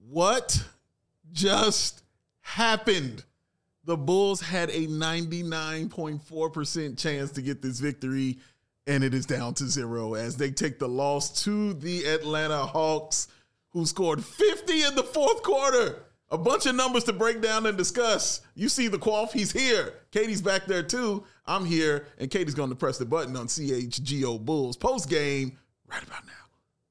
What just happened? The Bulls had a 99.4% chance to get this victory, and it is down to 0 as they take the loss to the Atlanta Hawks, who scored 50 in the fourth quarter. A bunch of numbers to break down and discuss. You see the Quaff, he's here. Katie's back there too. I'm here, and Katie's going to press the button on CHGO Bulls post-game right about now.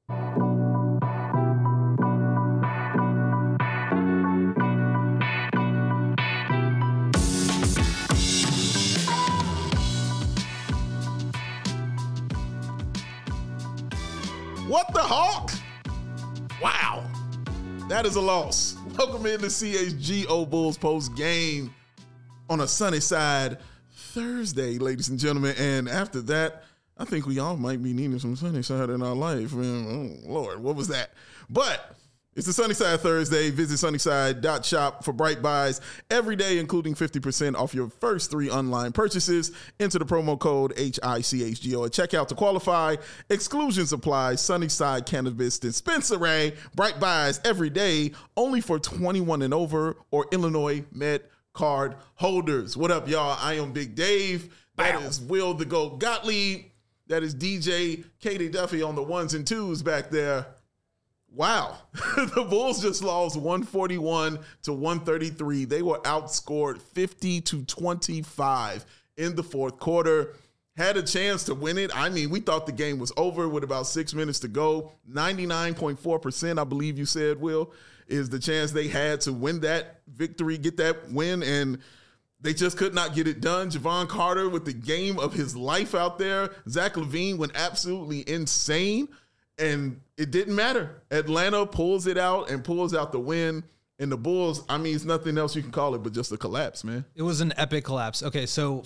What the Hawk? Wow. That is a loss. Welcome into CHGO Bulls post game on a sunny side Thursday, ladies and gentlemen. And after that, I think we all might be needing some sunny side in our life. Man, oh, Lord, what was that? But it's the Sunny Side Thursday. Visit sunnyside.shop for bright buys every day, including 50% off your first 3 online purchases. Enter the promo code HICHGO at checkout to qualify. Exclusions apply. Sunnyside Cannabis Dispensary. Bright buys every day, only for 21 and over or Illinois Med card holders. What up, y'all? I am Big Dave. That is Will the Goat Gottlieb. That is DJ Katie Duffy on the ones and twos back there. Wow. The Bulls just lost 141 to 133. They were outscored 50 to 25 in the fourth quarter. Had a chance to win it. I mean, we thought the game was over with about 6 minutes to go. 99.4%, I believe you said, Will, is the chance they had to win that victory, get that win, and they just could not get it done. Jevon Carter with the game of his life out there. Zach LaVine went absolutely insane. And it didn't matter. Atlanta pulls it out and pulls out the win. And the Bulls, I mean, it's nothing else you can call it but just a collapse, man. It was an epic collapse. Okay, so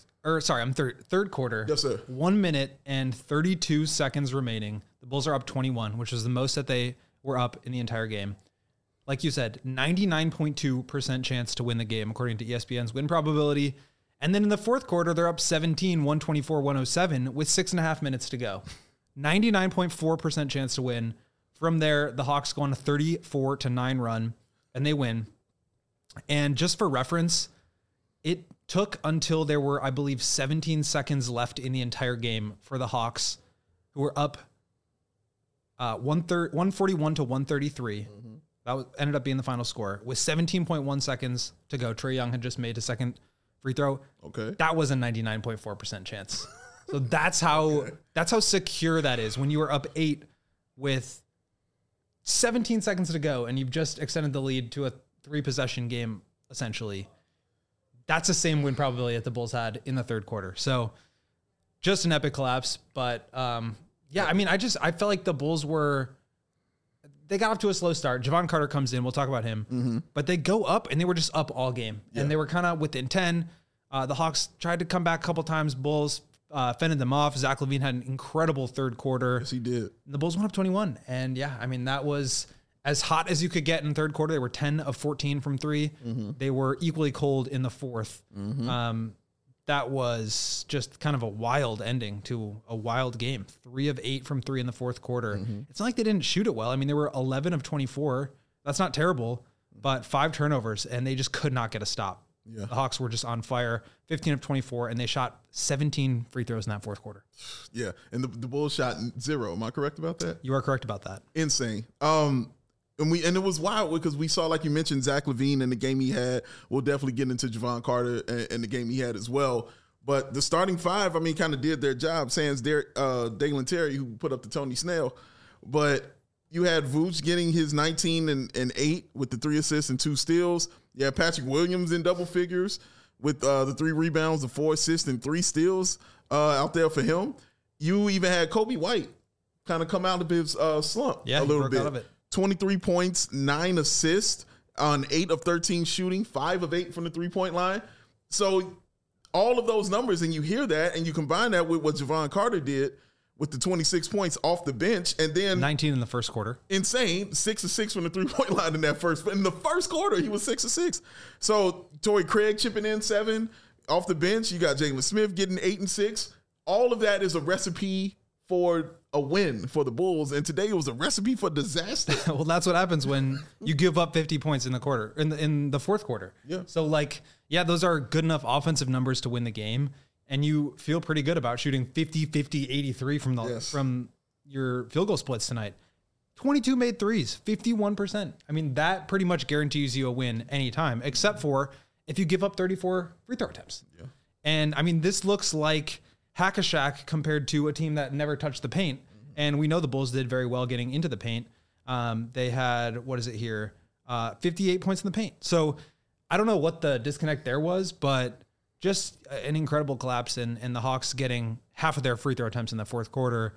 third quarter. Yes, sir. 1 minute and 32 seconds remaining. The Bulls are up 21, which was the most that they were up in the entire game. Like you said, 99.2% chance to win the game, according to ESPN's win probability. And then in the fourth quarter, they're up 17, 124, 107 with 6.5 minutes to go. 99.4% chance to win. From there, the Hawks go on a 34-9 run, and they win. And just for reference, it took until there were, I believe, 17 seconds left in the entire game for the Hawks, who were up 141 to 133. Mm-hmm. That ended up being the final score. With 17.1 seconds to go, Trae Young had just made a second free throw. Okay. That was a 99.4% chance. So that's how secure that is. When you were up 8 with 17 seconds to go and you've just extended the lead to a 3-possession game, essentially. That's the same win probability that the Bulls had in the third quarter. So just an epic collapse. But I mean, I felt like the Bulls they got off to a slow start. Jevon Carter comes in. We'll talk about him. Mm-hmm. But they go up and they were just up all game. Yeah. And they were kind of within 10. The Hawks tried to come back a couple times. Bulls fended them off. Zach LaVine had an incredible third quarter. Yes, he did. The Bulls went up 21. And yeah, I mean, that was as hot as you could get in the third quarter. They were 10 of 14 from 3. Mm-hmm. They were equally cold in the fourth. Mm-hmm. That was just kind of a wild ending to a wild game. 3 of 8 from 3 in the fourth quarter. Mm-hmm. It's not like they didn't shoot it well. I mean, they were 11 of 24. That's not terrible, but 5 turnovers, and they just could not get a stop. Yeah. The Hawks were just on fire, 15 of 24, and they shot 17 free throws in that fourth quarter. Yeah, and the Bulls shot 0. Am I correct about that? You are correct about that. Insane. And it was wild because we saw, like you mentioned, Zach LaVine and the game he had. We'll definitely get into Jevon Carter and the game he had as well. But the starting 5, I mean, kind of did their job. Sans Dalen Terry, who put up the Tony Snell. But you had Vooch getting his 19 and 8 with the 3 assists and 2 steals. You had Patrick Williams in double figures with the 3 rebounds, the 4 assists, and 3 steals out there for him. You even had Kobe White kind of come out of his slump a little bit. Out of it. 23 points, 9 assists on 8 of 13 shooting, 5 of 8 from the 3-point line. So all of those numbers, and you hear that, and you combine that with what Jevon Carter did with the 26 points off the bench, and then 19 in the first quarter. Insane. 6 of 6 from the 3-point line in the first quarter, he was 6 of 6. So Torrey Craig chipping in 7 off the bench. You got Jalen Smith getting 8 and 6. All of that is a recipe for a win for the Bulls, and today it was a recipe for disaster. Well, that's what happens when you give up 50 points in the quarter, in the fourth quarter. Yeah. So like, yeah, those are good enough offensive numbers to win the game, and you feel pretty good about shooting 50, 50, 83 from your field goal splits tonight. 22 made threes, 51%. I mean, that pretty much guarantees you a win anytime, except for if you give up 34 free throw attempts. Yeah. And I mean, this looks like hack-a-shack compared to a team that never touched the paint. And we know the Bulls did very well getting into the paint. They had, 58 points in the paint. So I don't know what the disconnect there was, but just an incredible collapse and the Hawks getting half of their free throw attempts in the fourth quarter.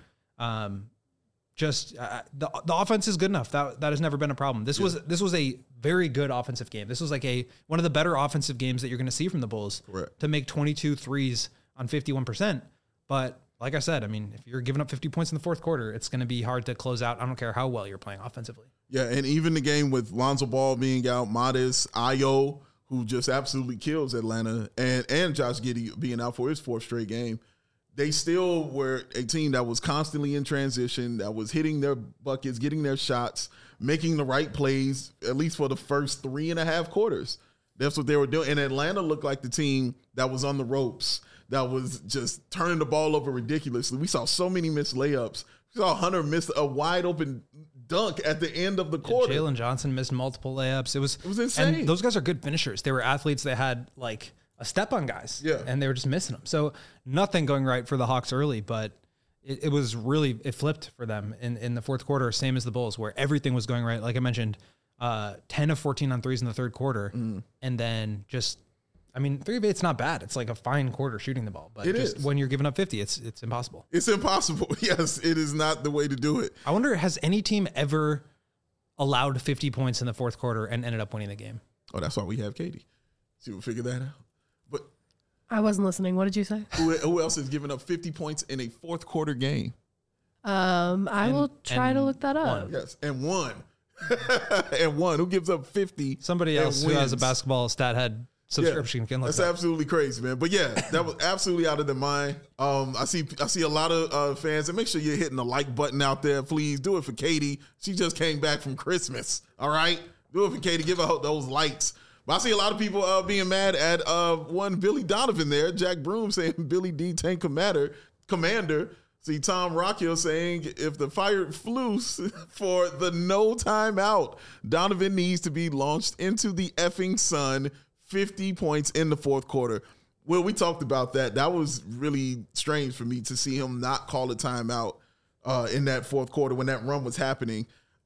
The offense is good enough. That has never been a problem. This was a very good offensive game. This was like one of the better offensive games that you're going to see from the Bulls. Correct. To make 22 threes on 51%. But like I said, I mean, if you're giving up 50 points in the fourth quarter, it's going to be hard to close out. I don't care how well you're playing offensively. Yeah, and even the game with Lonzo Ball being out, Modest, Ayo, who just absolutely kills Atlanta, and Josh Giddey being out for his fourth straight game, they still were a team that was constantly in transition, that was hitting their buckets, getting their shots, making the right plays, at least for the first 3.5 quarters. That's what they were doing. And Atlanta looked like the team that was on the ropes, that was just turning the ball over ridiculously. We saw so many missed layups. We saw Hunter miss a wide open dunk at the end of the quarter. Jalen Johnson missed multiple layups. It was insane. And those guys are good finishers. They were athletes. They had like a step on guys. Yeah. And they were just missing them. So nothing going right for the Hawks early, but it was really, it flipped for them in the fourth quarter, same as the Bulls, where everything was going right. Like I mentioned, 10 of 14 on threes in the third quarter. And then just, I mean, 3 of 8's not bad. It's like a fine quarter shooting the ball, but when you're giving up 50, it's impossible. It's impossible. Yes, it is not the way to do it. I wonder, has any team ever allowed 50 points in the fourth quarter and ended up winning the game? Oh, that's why we have Katie. See, we'll figure that out. But I wasn't listening. What did you say? Who else has given up 50 points in a fourth quarter game? I will try to look that up. Yes, and won. And one. Who gives up 50? Somebody else who has a basketball stat head subscription can look. That's that. absolutely crazy, man. But yeah, that was absolutely out of their mind. I see a lot of fans, and make sure you're hitting the like button out there. Please do it for Katie. She just came back from Christmas. All right, do it for Katie. Give her those lights. But I see a lot of people being mad at one Billy Donovan there. Jack Broom saying Billy D Tank Commander. See Tom Rockhill saying if the fired Flus for the no timeout, Donovan needs to be launched into the effing sun. 50 points in the fourth quarter. Well, we talked about that. That was really strange for me to see him not call a timeout in that fourth quarter when that run was happening.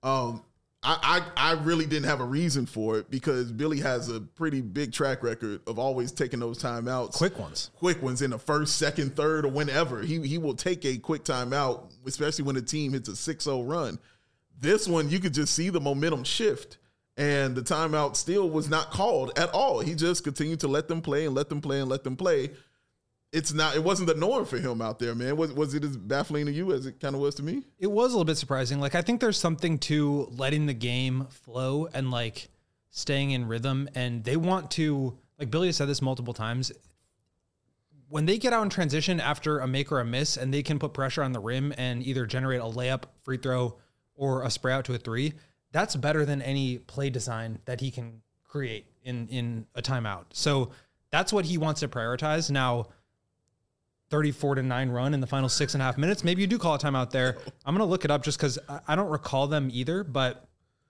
I really didn't have a reason for it because Billy has a pretty big track record of always taking those timeouts. Quick ones in the first, second, third, or whenever. He will take a quick timeout, especially when the team hits a 6-0 run. This one, you could just see the momentum shift. And the timeout still was not called at all. He just continued to let them play and let them play and let them play. It wasn't the norm for him out there, man. Was it as baffling to you as it kind of was to me? It was a little bit surprising. Like, I think there's something to letting the game flow and like staying in rhythm. And they want to, like Billy has said this multiple times, when they get out in transition after a make or a miss and they can put pressure on the rim and either generate a layup, free throw, or a spray out to a three, that's better than any play design that he can create in a timeout. So that's what he wants to prioritize. Now, 34-9 run in the final 6.5 minutes. Maybe you do call a timeout there. I'm going to look it up just because I don't recall them either. But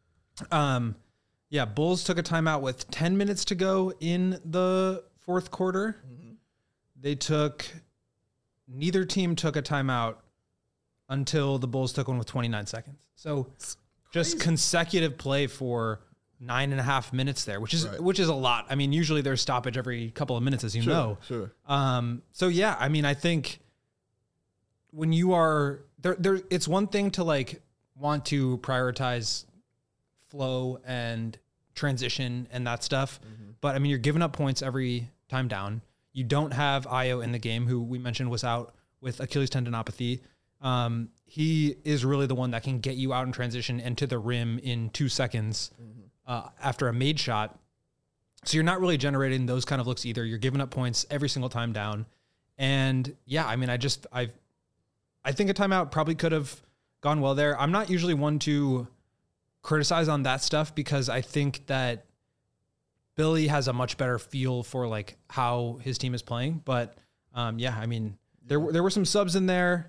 Bulls took a timeout with 10 minutes to go in the fourth quarter. Mm-hmm. Neither team took a timeout until the Bulls took one with 29 seconds. So just consecutive play for 9.5 minutes there, which is a lot. I mean, usually there's stoppage every couple of minutes, as you know. Sure. So yeah, I mean, I think when you are there, it's one thing to like want to prioritize flow and transition and that stuff. Mm-hmm. But I mean, you're giving up points every time down. You don't have Ayo in the game, who we mentioned was out with Achilles tendinopathy. He is really the one that can get you out in transition and to the rim in 2 seconds after a made shot. So you're not really generating those kind of looks either. You're giving up points every single time down. And yeah, I mean, I think a timeout probably could have gone well there. I'm not usually one to criticize on that stuff because I think that Billy has a much better feel for like how his team is playing. But yeah, I mean, there were some subs in there.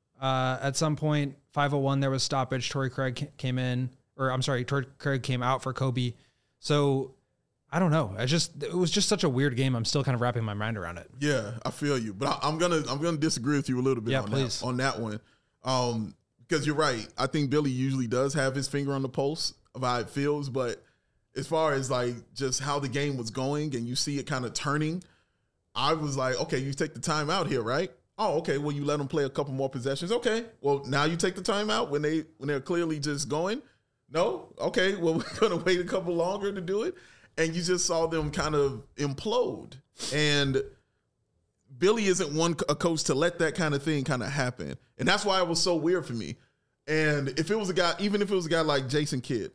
At some point, 5:01, there was stoppage. Torrey Craig came in, or I'm sorry, Torrey Craig came out for Kobe. So I don't know. It was just such a weird game. I'm still kind of wrapping my mind around it. Yeah, I feel you, but I'm gonna disagree with you a little bit on that one. Because you're right. I think Billy usually does have his finger on the pulse of how it feels, but as far as like just how the game was going and you see it kind of turning, I was like, okay, you take the time out here, right? Oh, okay. Well, you let them play a couple more possessions. Okay. Well, now you take the time out when they're clearly just going. No. Okay. Well, we're gonna wait a couple longer to do it, and you just saw them kind of implode. And Billy isn't a coach to let that kind of thing kind of happen, and that's why it was so weird for me. And if it was a guy, even if it was a guy like Jason Kidd,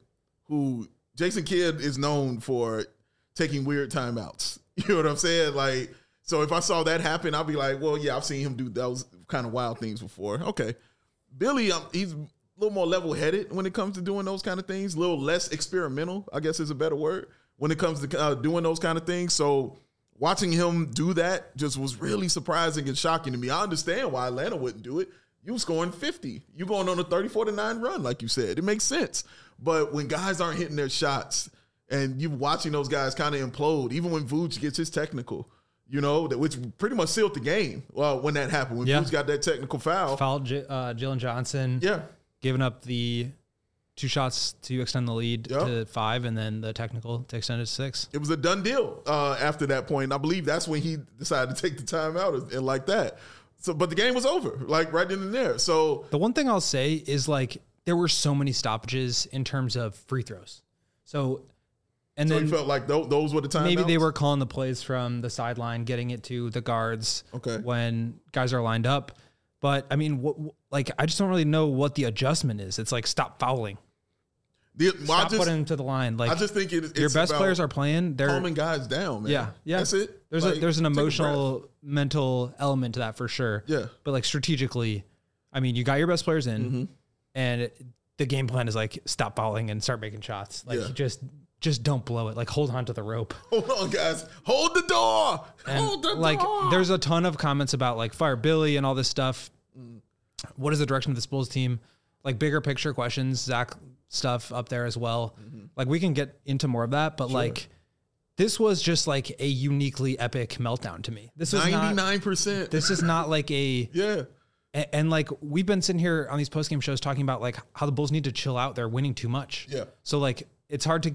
Jason Kidd is known for taking weird timeouts. You know what I'm saying? Like, so if I saw that happen, I'd be like, well, yeah, I've seen him do those kind of wild things before. Okay. Billy, he's a little more level-headed when it comes to doing those kind of things, a little less experimental, I guess is a better word, when it comes to doing those kind of things. So watching him do that just was really surprising and shocking to me. I understand why Atlanta wouldn't do it. You scoring 50. You going on a 34-9 run, like you said. It makes sense. But when guys aren't hitting their shots and you watching those guys kind of implode, even when Vooch gets his technical, you know, which pretty much sealed the game when that happened, when Vooch got that technical foul. Fouled Jalen Johnson. Yeah. Giving up the 2 shots to extend the lead to 5, and then the technical to extend it to 6. It was a done deal after that point. I believe that's when he decided to take the timeout and like that. So, but the game was over, like right then and there. So the one thing I'll say is like there were so many stoppages in terms of free throws. So then you felt like those were the timeouts? Maybe they were calling the plays from the sideline, getting it to the guards when guys are lined up. But I mean, I just don't really know what the adjustment is. It's like stop fouling. Stop putting them to the line. Like, I just think it's your best players are playing. They're calming guys down, man. Yeah. That's it. There's an emotional, mental element to that for sure. Yeah. But like strategically, I mean, you got your best players in, and the game plan is like stop fouling and start making shots. Like just don't blow it. Like hold on to the rope. Hold on, guys. Hold the door. Hold the door. There's a ton of comments about like fire Billy and all this stuff. What is the direction of this Bulls team? Like bigger picture questions, Zach stuff up there as well. Like we can get into more of that, but like this was just like a uniquely epic meltdown to me. This was 99%. This is not like a And like we've been sitting here on these postgame shows talking about like how the Bulls need to chill out. They're winning too much. Yeah. So like it's hard to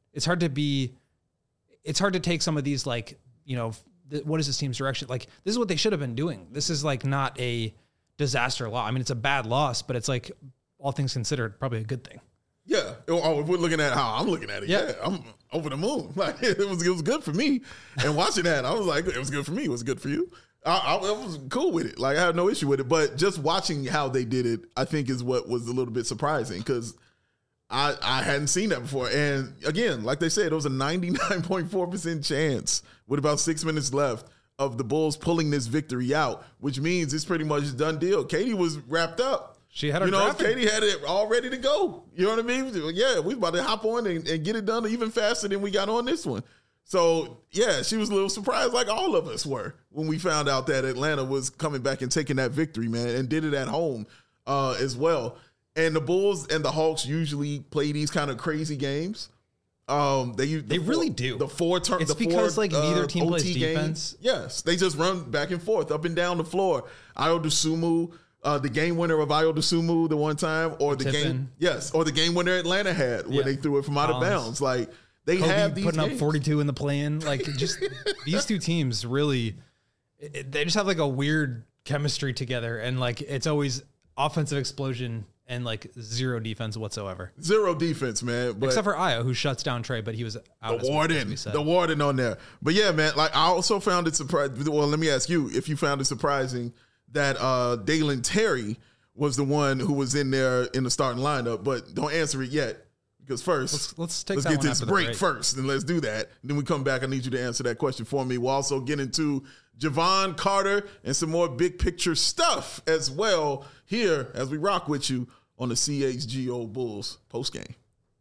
take some of these like, you know, what is this team's direction? Like this is what they should have been doing. This is like not a disaster loss. I mean, it's a bad loss, but it's like all things considered, probably a good thing. Yeah. Oh, if we're looking at how I'm looking at it, yeah, I'm over the moon. Like it was good for me. And watching that, I was like, it was good for me. It was good for you. I was cool with it. Like I had no issue with it. But just watching how they did it, I think is what was a little bit surprising because I hadn't seen that before. And again, like they said, it was a 99.4% chance with about 6 minutes left of the Bulls pulling this victory out, which means it's pretty much a done deal. Katie was wrapped up. She had her Katie had it all ready to go. You know what I mean? Yeah, we about to hop on and get it done even faster than we got on this one. So, yeah, she was a little surprised like all of us were when we found out that Atlanta was coming back and taking that victory, man, and did it at home as well. And the Bulls and the Hawks usually play these kind of crazy games. They really do. The four turn. It's because like neither team plays defense. Yes, they just run back and forth, up and down the floor. Ayo Dosunmu, the game winner of Ayo Dosunmu the one time, or the game winner Atlanta had when they threw it from out of bounds. Like they Kobe have these putting games. Up 42 in the play-in. Like just these two teams really, they just have like a weird chemistry together, and like it's always offensive explosion. And like zero defense whatsoever. Zero defense, man. But except for Ayo, who shuts down Trey, but he was out. The warden on there. But yeah, man, like I also found it surprising. Well, let me ask you if you found it surprising that Dalen Terry was the one who was in there in the starting lineup, but don't answer it yet Because first, let's get this break first, and let's do that. Then we come back. I need you to answer that question for me. We'll also get into Javon Carter and some more big picture stuff as well here as we rock with you on the CHGO Bulls postgame.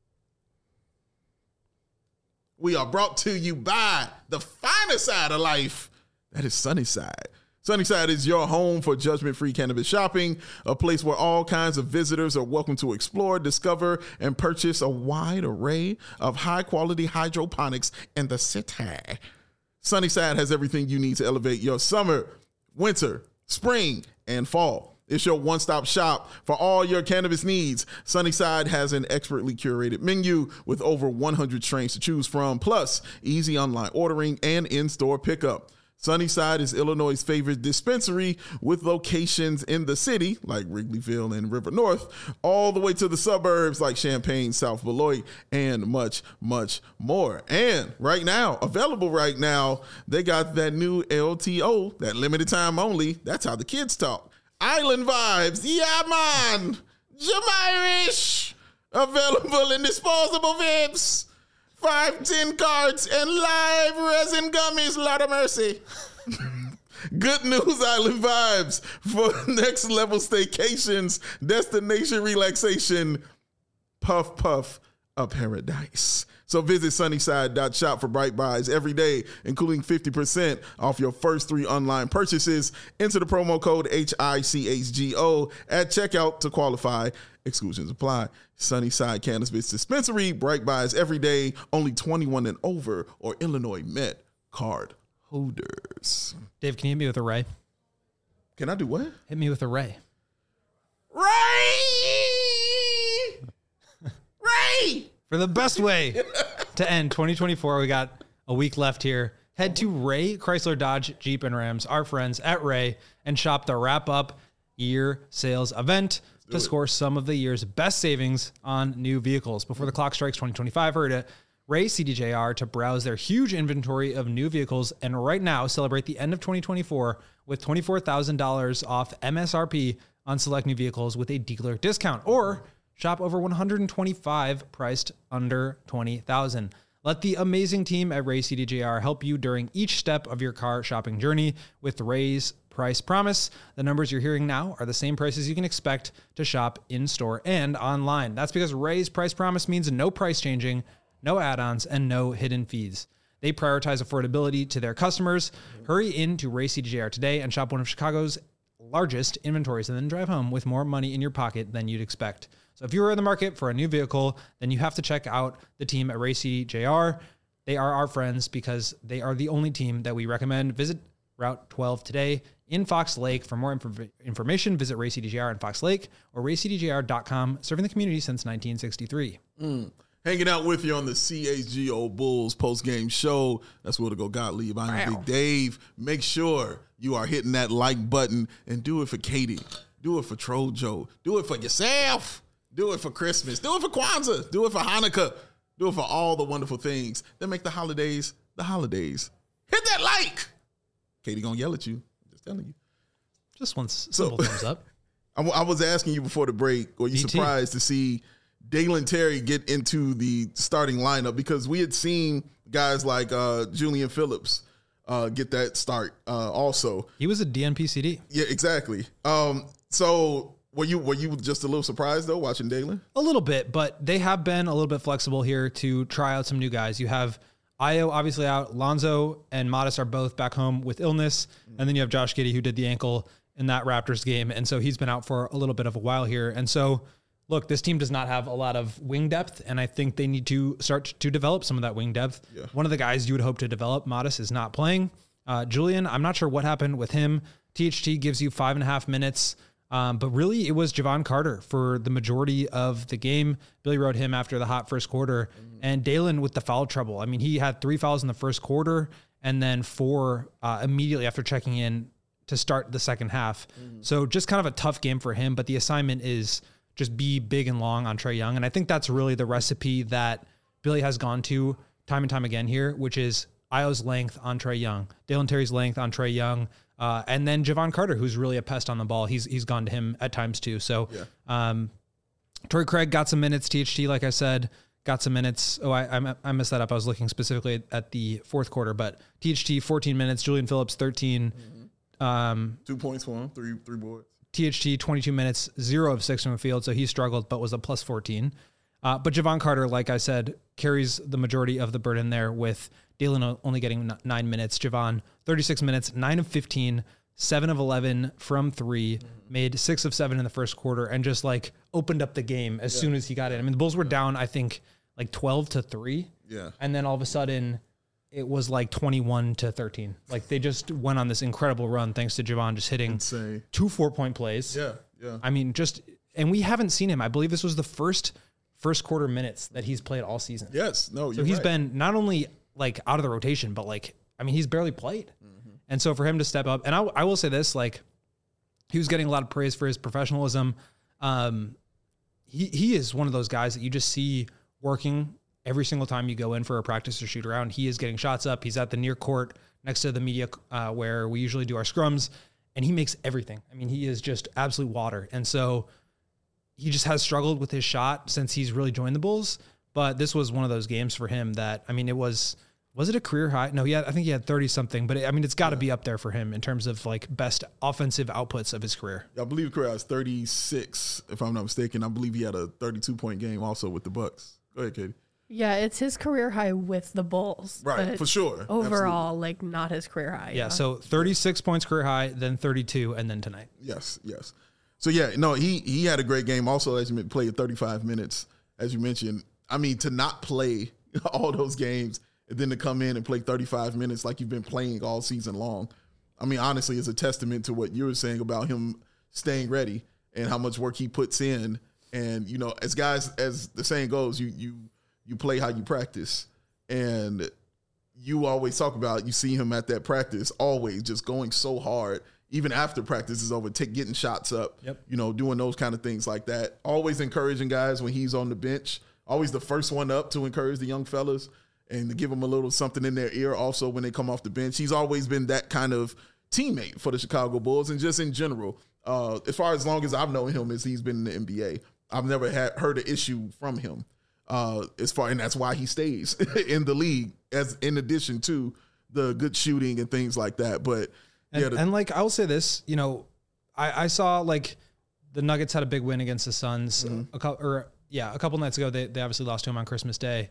We are brought to you by the finer side of life. That is Sunnyside. Sunnyside is your home for judgment-free cannabis shopping, a place where all kinds of visitors are welcome to explore, discover, and purchase a wide array of high-quality hydroponics in the city. Sunnyside has everything you need to elevate your summer, winter, spring, and fall. It's your one-stop shop for all your cannabis needs. Sunnyside has an expertly curated menu with over 100 strains to choose from, plus easy online ordering and in-store pickup. Sunnyside is Illinois' favorite dispensary with locations in the city, like Wrigleyville and River North, all the way to the suburbs like Champaign, South Beloit, and much, much more. And available right now, they got that new LTO, that limited time only. That's how the kids talk. Island Vibes, yeah man, Jamirish, available in disposable vapes. 5-10 cards and live resin gummies. Lord of mercy. Good news, Island Vibes, for next level staycations, destination relaxation, puff puff a paradise. So visit sunnyside.shop for bright buys every day, including 50% off your first 3 online purchases. Enter the promo code HICHGO at checkout to qualify. Exclusions apply. Sunnyside Cannabis Dispensary, bright buys every day, only 21 and over, or Illinois Met card holders. Dave, can you hit me with a Ray? Can I do what? Hit me with a Ray. Ray! For the best way to end 2024, we got a week left here. Head to Ray Chrysler Dodge Jeep and Rams, our friends at Ray, and shop the wrap-up year sales event to score some of the year's best savings on new vehicles. Before the clock strikes 2025, hurry to Ray CDJR to browse their huge inventory of new vehicles, and right now celebrate the end of 2024 with $24,000 off MSRP on select new vehicles with a dealer discount, or shop over 125 priced under $20,000. Let the amazing team at Ray CDJR help you during each step of your car shopping journey with Ray's Price Promise. The numbers you're hearing now are the same prices you can expect to shop in-store and online. That's because Ray's Price Promise means no price changing, no add-ons, and no hidden fees. They prioritize affordability to their customers. Hurry into Ray CDJR today and shop one of Chicago's largest inventories, and then drive home with more money in your pocket than you'd expect. So if you are in the market for a new vehicle, then you have to check out the team at Ray CDJR. They are our friends because they are the only team that we recommend. Visit Route 12 today in Fox Lake. For more information, visit Ray CDJR in Fox Lake or raycdjr.com, serving the community since 1963. Hanging out with you on the CHGO Bulls post-game show. That's Will to Go Gottlieb. I'm Big Dave. Make sure you are hitting that like button and do it for Katie. Do it for Trojo. Do it for yourself. Do it for Christmas. Do it for Kwanzaa. Do it for Hanukkah. Do it for all the wonderful things that make the holidays the holidays. Hit that like. Katie gonna yell at you. Just telling you. Just one simple thumbs up. I was asking you before the break, were you surprised to see Dalen Terry get into the starting lineup? Because we had seen guys like Julian Phillips get that start also. He was a DNP CD. Yeah, exactly. So were you just a little surprised, though, watching Dalen? A little bit, but they have been a little bit flexible here to try out some new guys. You have Ayo obviously out. Lonzo and Modest are both back home with illness. And then you have Josh Giddey, who did the ankle in that Raptors game. And so he's been out for a little bit of a while here. And so, look, this team does not have a lot of wing depth, and I think they need to start to develop some of that wing depth. Yeah. One of the guys you would hope to develop, Modest, is not playing. Julian, I'm not sure what happened with him. THT gives you 5.5 minutes. But really, it was Javon Carter for the majority of the game. Billy rode him after the hot first quarter. And Dalen with the foul trouble. I mean, he had 3 fouls in the first quarter and then 4 immediately after checking in to start the second half. So just kind of a tough game for him. But the assignment is just be big and long on Trae Young. And I think that's really the recipe that Billy has gone to time and time again here, which is Ayo's length on Trae Young, Dalen Terry's length on Trae Young, and then Javon Carter, who's really a pest on the ball. He's gone to him at times too. So Torrey Craig got some minutes. THT, like I said, got some minutes. Oh, I messed that up. I was looking specifically at the fourth quarter, but THT 14 minutes, Julian Phillips 13. 2 points for him, three boards. THT 22 minutes, 0 of 6 from the field, so he struggled, but was a plus 14. But Javon Carter, like I said, carries the majority of the burden there, with Dalen only getting 9 minutes. Javon 36 minutes, 9 of 15, 7 of 11 from 3, made 6 of 7 in the first quarter, and just like opened up the game as soon as he got in. I mean, the Bulls were down, I think, like 12-3. Yeah. And then all of a sudden it was like 21-13. Like they just went on this incredible run thanks to Javon just hitting Insane. 2 4-point plays. Yeah. I mean, and we haven't seen him. I believe this was the first quarter minutes that he's played all season. Yes. No, so he's been not only like out of the rotation, but like, I mean, he's barely played. And so for him to step up, and I will say this, like, he was getting a lot of praise for his professionalism. He is one of those guys that you just see working every single time you go in for a practice or shoot around. He is getting shots up. He's at the near court next to the media where we usually do our scrums, and he makes everything. I mean, he is just absolute water. And so he just has struggled with his shot since he's really joined the Bulls. But this was one of those games for him that, I mean, was it a career high? No, I think he had 30 something, but I mean, it's got to be up there for him in terms of like best offensive outputs of his career. I believe his career was 36, if I'm not mistaken. I believe he had a 32-point game also with the Bucks. Go ahead, Katie. Yeah, it's his career high with the Bulls. Right, for sure. Overall, Absolutely. like not his career high. Yeah, so 36 points career high, then 32, and then tonight. Yes. So yeah, no, he had a great game. Also, as you played 35 minutes, as you mentioned. I mean, to not play all those games and then to come in and play 35 minutes like you've been playing all season long, I mean, honestly, it's a testament to what you were saying about him staying ready and how much work he puts in. And, you know, as guys, as the saying goes, you play how you practice. And you always talk about, you see him at that practice, always just going so hard, even after practice is over, getting shots up, you know, doing those kind of things like that. Always encouraging guys when he's on the bench. Always the first one up to encourage the young fellas and to give them a little something in their ear also when they come off the bench. He's always been that kind of teammate for the Chicago Bulls, and just in general, as far as long as I've known him as he's been in the NBA, I've never heard an issue from him. And that's why he stays in the league, as in addition to the good shooting and things like that. But and like I'll say this, you know, I saw like the Nuggets had a big win against the Suns a couple nights ago. They obviously lost to him on Christmas Day,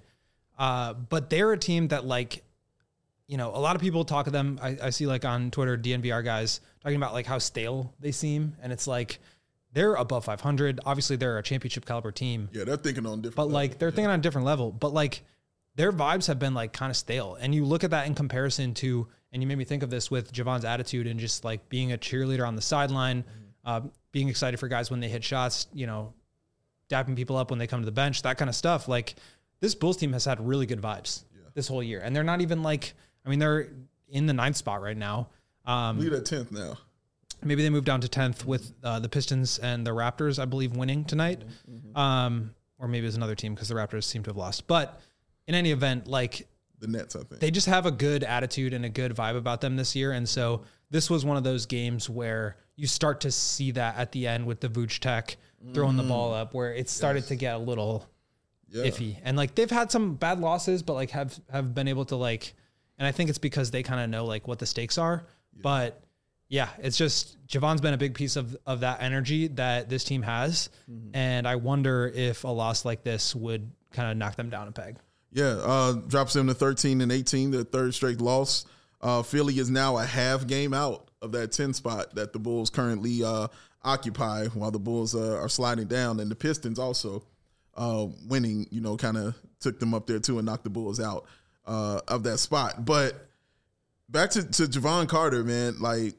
but they're a team that, like, you know, a lot of people talk to them. I see like on Twitter, DNVR guys talking about like how stale they seem, and it's like they're above 500. Obviously, they're a championship caliber team. Yeah, they're thinking on different. But like they're thinking on a different level. But like their vibes have been like kind of stale, and you look at that in comparison to, and you made me think of this with Javon's attitude and just like being a cheerleader on the sideline, being excited for guys when they hit shots, you know, dapping people up when they come to the bench, that kind of stuff. Like this Bulls team has had really good vibes this whole year, and they're not even like, I mean, they're in the 9th spot right now. Lead at 10th now. Maybe they moved down to 10th with the Pistons and the Raptors, I believe, winning tonight. Or maybe it was another team because the Raptors seem to have lost. But in any event, like the Nets, I think. They just have a good attitude and a good vibe about them this year. And so this was one of those games where you start to see that at the end with the Vooch Tech throwing the ball up, where it started to get a little iffy. And like they've had some bad losses, but like have been able to like, and I think it's because they kind of know like what the stakes are. But yeah, it's just Javon's been a big piece of that energy that this team has. And I wonder if a loss like this would kind of knock them down a peg. Yeah, drops them to 13-18, their third straight loss. Philly is now a half game out of that 10 spot that the Bulls currently occupy, while the Bulls are sliding down. And the Pistons also winning, you know, kind of took them up there too and knocked the Bulls out of that spot. But back to Javon Carter, man, like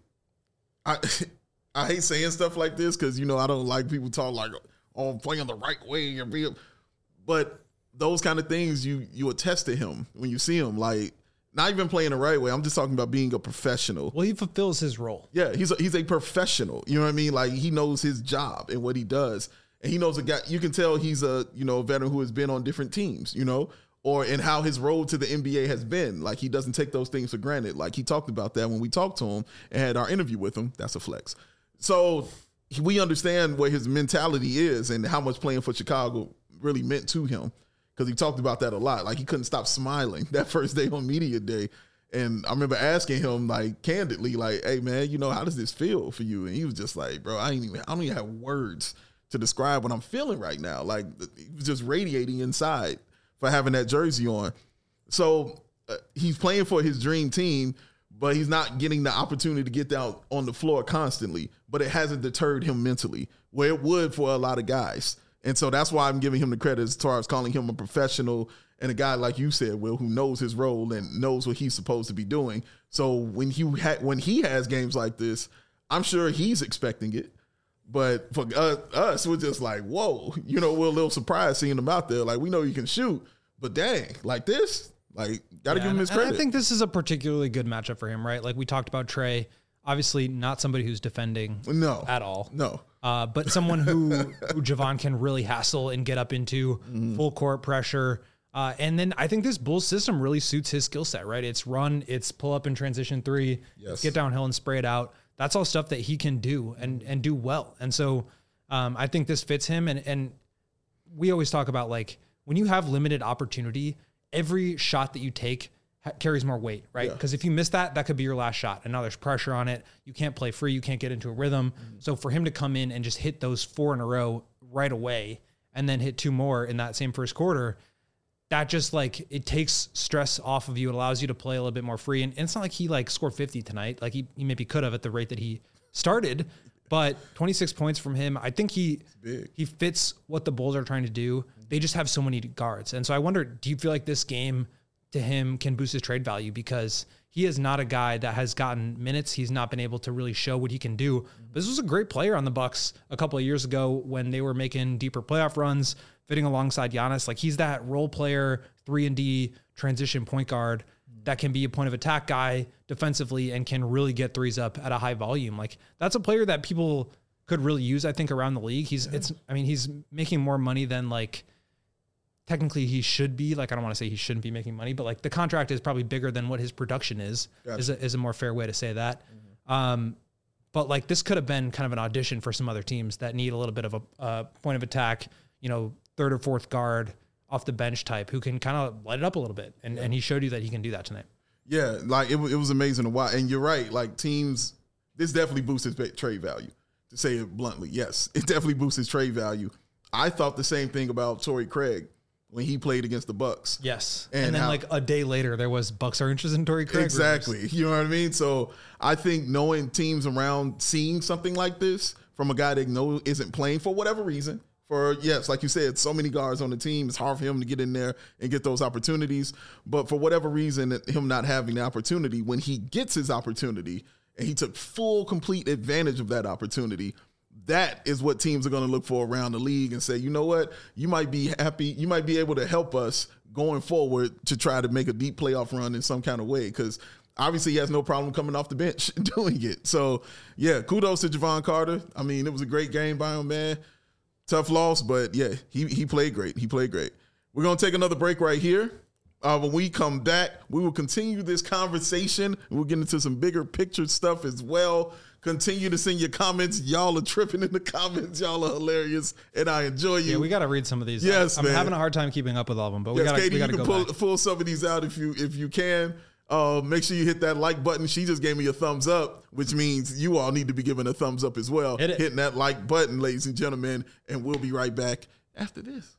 I hate saying stuff like this because, you know, I don't like people talk like, oh, I'm playing the right way. But those kind of things, you attest to him when you see him, like not even playing the right way. I'm just talking about being a professional. Well, he fulfills his role. Yeah, he's a professional. You know what I mean? Like he knows his job and what he does. And he knows a guy, you can tell he's a, you know, veteran who has been on different teams, you know, or in how his road to the NBA has been. Like he doesn't take those things for granted. Like he talked about that when we talked to him and had our interview with him. That's a flex. So we understand what his mentality is and how much playing for Chicago really meant to him. because he talked about that a lot. Like he couldn't stop smiling that first day on media day. And I remember asking him like candidly, like, hey man, you know, how does this feel for you? And he was just like, bro, I don't even have words to describe what I'm feeling right now. Like he was just radiating inside for having that jersey on. So he's playing for his dream team, but he's not getting the opportunity to get down on the floor constantly. But it hasn't deterred him mentally, where it would for a lot of guys. And so that's why I'm giving him the credit as far as calling him a professional and a guy, like you said, Will, who knows his role and knows what he's supposed to be doing. So when he has games like this, I'm sure he's expecting it. But for us, we're just like, whoa, you know, we're a little surprised seeing him out there. Like, we know he can shoot, but dang, like this, like, got to give him his credit. I think this is a particularly good matchup for him, right? Like we talked about Trey, obviously not somebody who's defending at all. No. But someone who Javon can really hassle and get up into full court pressure. And then I think this Bulls system really suits his skill set, right? It's run, it's pull up and transition three, get downhill and spray it out. That's all stuff that he can do and do well. And so I think this fits him. And we always talk about like when you have limited opportunity, every shot that you take carries more weight, right? Because if you miss that could be your last shot. And now there's pressure on it. You can't play free. You can't get into a rhythm. So for him to come in and just hit those 4 in a row right away and then hit 2 more in that same first quarter, that just like, it takes stress off of you. It allows you to play a little bit more free. And it's not like he like scored 50 tonight. Like he maybe could have at the rate that he started, but 26 points from him. I think he fits what the Bulls are trying to do. They just have so many guards. And so I wonder, do you feel like this game to him can boost his trade value? Because he is not a guy that has gotten minutes. He's not been able to really show what he can do. This was a great player on the Bucks a couple of years ago when they were making deeper playoff runs, fitting alongside Giannis. Like he's that role player, 3-and-D transition point guard that can be a point of attack guy defensively and can really get threes up at a high volume. Like that's a player that people could really use, I think, around the league. He's making more money than like technically he should be. Like, I don't want to say he shouldn't be making money, but like the contract is probably bigger than what his production is, is a more fair way to say that. But like this could have been kind of an audition for some other teams that need a little bit of a point of attack, you know, third or fourth guard off the bench type who can kind of light it up a little bit. And he showed you that he can do that tonight. Yeah. Like it was amazing to watch. And you're right. Like teams, this definitely boosts his trade value, to say it bluntly. Yes, it definitely boosts his trade value. I thought the same thing about Torrey Craig when he played against the Bucks. Yes. And then like a day later, there was Bucks are interested in Torrey Craig. Exactly. Rumors. You know what I mean? So I think knowing teams around seeing something like this from a guy they know isn't playing for whatever reason, like you said, so many guards on the team, it's hard for him to get in there and get those opportunities. But for whatever reason, him not having the opportunity, when he gets his opportunity and he took full, complete advantage of that opportunity, that is what teams are going to look for around the league and say, you know what, you might be happy, you might be able to help us going forward to try to make a deep playoff run in some kind of way, because obviously he has no problem coming off the bench doing it. So, yeah, kudos to Javon Carter. I mean, it was a great game by him, man. Tough loss, but, yeah, he played great. He played great. We're going to take another break right here. When we come back, we will continue this conversation. We'll get into some bigger picture stuff as well. Continue to send your comments. Y'all are tripping in the comments. Y'all are hilarious, and I enjoy you. Yeah, we got to read some of these. Yes, I'm having a hard time keeping up with all of them, but we got to go back. Pull some of these out if you can. Make sure you hit that like button. She just gave me a thumbs up, which means you all need to be giving a thumbs up as well. Hitting that like button, ladies and gentlemen, and we'll be right back after this.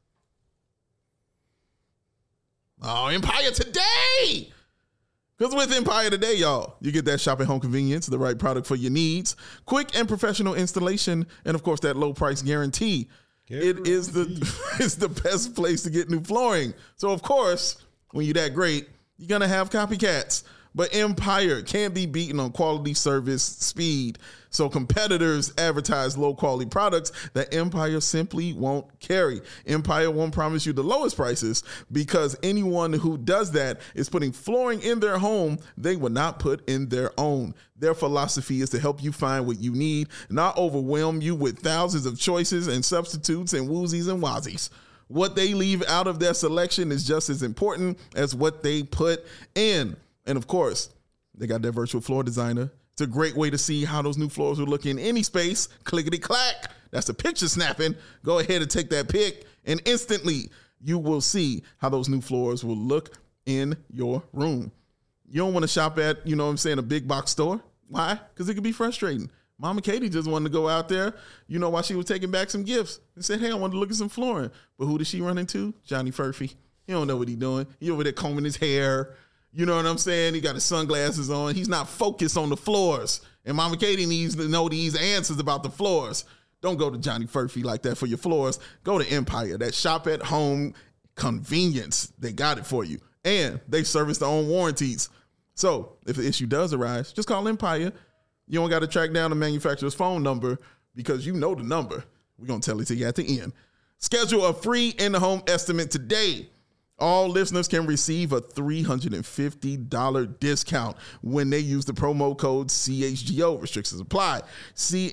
Oh, Empire Today! Because with Empire Today, y'all, you get that shopping home convenience, the right product for your needs, quick and professional installation, and of course that low price guarantee. It is it's the best place to get new flooring. So of course, when you're that great, you're gonna have copycats. But Empire can't be beaten on quality, service, speed. So competitors advertise low-quality products that Empire simply won't carry. Empire won't promise you the lowest prices because anyone who does that is putting flooring in their home they would not put in their own. Their philosophy is to help you find what you need, not overwhelm you with thousands of choices and substitutes and woozies and wazies. What they leave out of their selection is just as important as what they put in. And of course, they got their virtual floor designer. It's a great way to see how those new floors will look in any space. Clickety clack. That's the picture snapping. Go ahead and take that pic and instantly you will see how those new floors will look in your room. You don't want to shop at, a big box store. Why? Because it can be frustrating. Mama Katie just wanted to go out there, while she was taking back some gifts and said, hey, I wanted to look at some flooring. But who did she run into? Johnny Furphy. He don't know what he's doing. He over there combing his hair. You know what I'm saying? He got his sunglasses on. He's not focused on the floors. And Mama Katie needs to know these answers about the floors. Don't go to Johnny Furphy like that for your floors. Go to Empire. That shop at home convenience. They got it for you. And they service their own warranties. So if the issue does arise, just call Empire. You don't got to track down the manufacturer's phone number because you know the number. We're going to tell it to you at the end. Schedule a free in-the-home estimate today. All listeners can receive a $350 discount when they use the promo code CHGO. Restrictions apply. See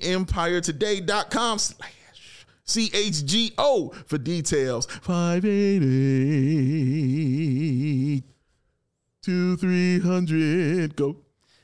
EmpireToday.com/CHGO for details. 588-2300. Go.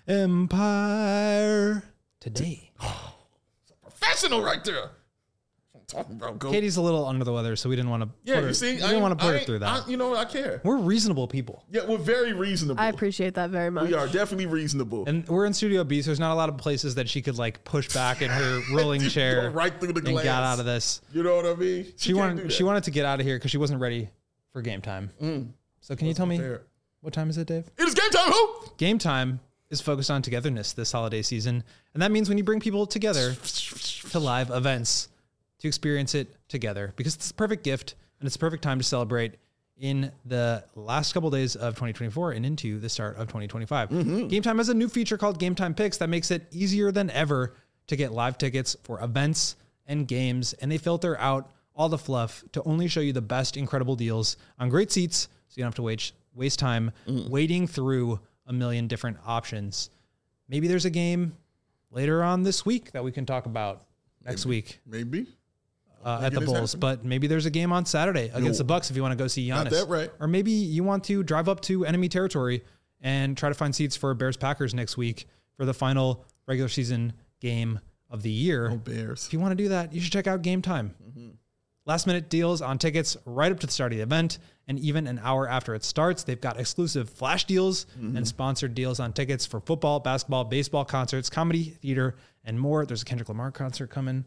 Empire Today. Professional right there. Talking about go. Katie's a little under the weather, so we didn't want to. We didn't want to put her through that. I care. We're reasonable people, Yeah, we're very reasonable. I appreciate that very much. We are definitely reasonable. and we're in Studio B, so there's not a lot of places that she could like push back in her rolling chair Go right through the and glass. get out of this. You know what I mean? She wanted to get out of here because she wasn't ready for game time. So can you tell me what time is it, Dave? It is game time. Who? Game time is focused on togetherness this holiday season, and that means when you bring people together to live events to experience it together, because it's the perfect gift and it's the perfect time to celebrate in the last couple days of 2024 and into the start of 2025. Game Time has a new feature called Game Time Picks that makes it easier than ever to get live tickets for events and games, and they filter out all the fluff to only show you the best incredible deals on great seats, so you don't have to waste time wading through a million different options. Maybe there's a game later on this week that we can talk about next week. Maybe. At the Bulls, but maybe there's a game on Saturday against the Bucks if you want to go see Giannis. Not that right. Or maybe you want to drive up to enemy territory and try to find seats for Bears-Packers next week for the final regular season game of the year. Oh, Bears. If you want to do that, you should check out Game Time. Last minute deals on tickets right up to the start of the event, and even an hour after it starts. They've got exclusive flash deals and sponsored deals on tickets for football, basketball, baseball, concerts, comedy, theater, and more. There's a Kendrick Lamar concert coming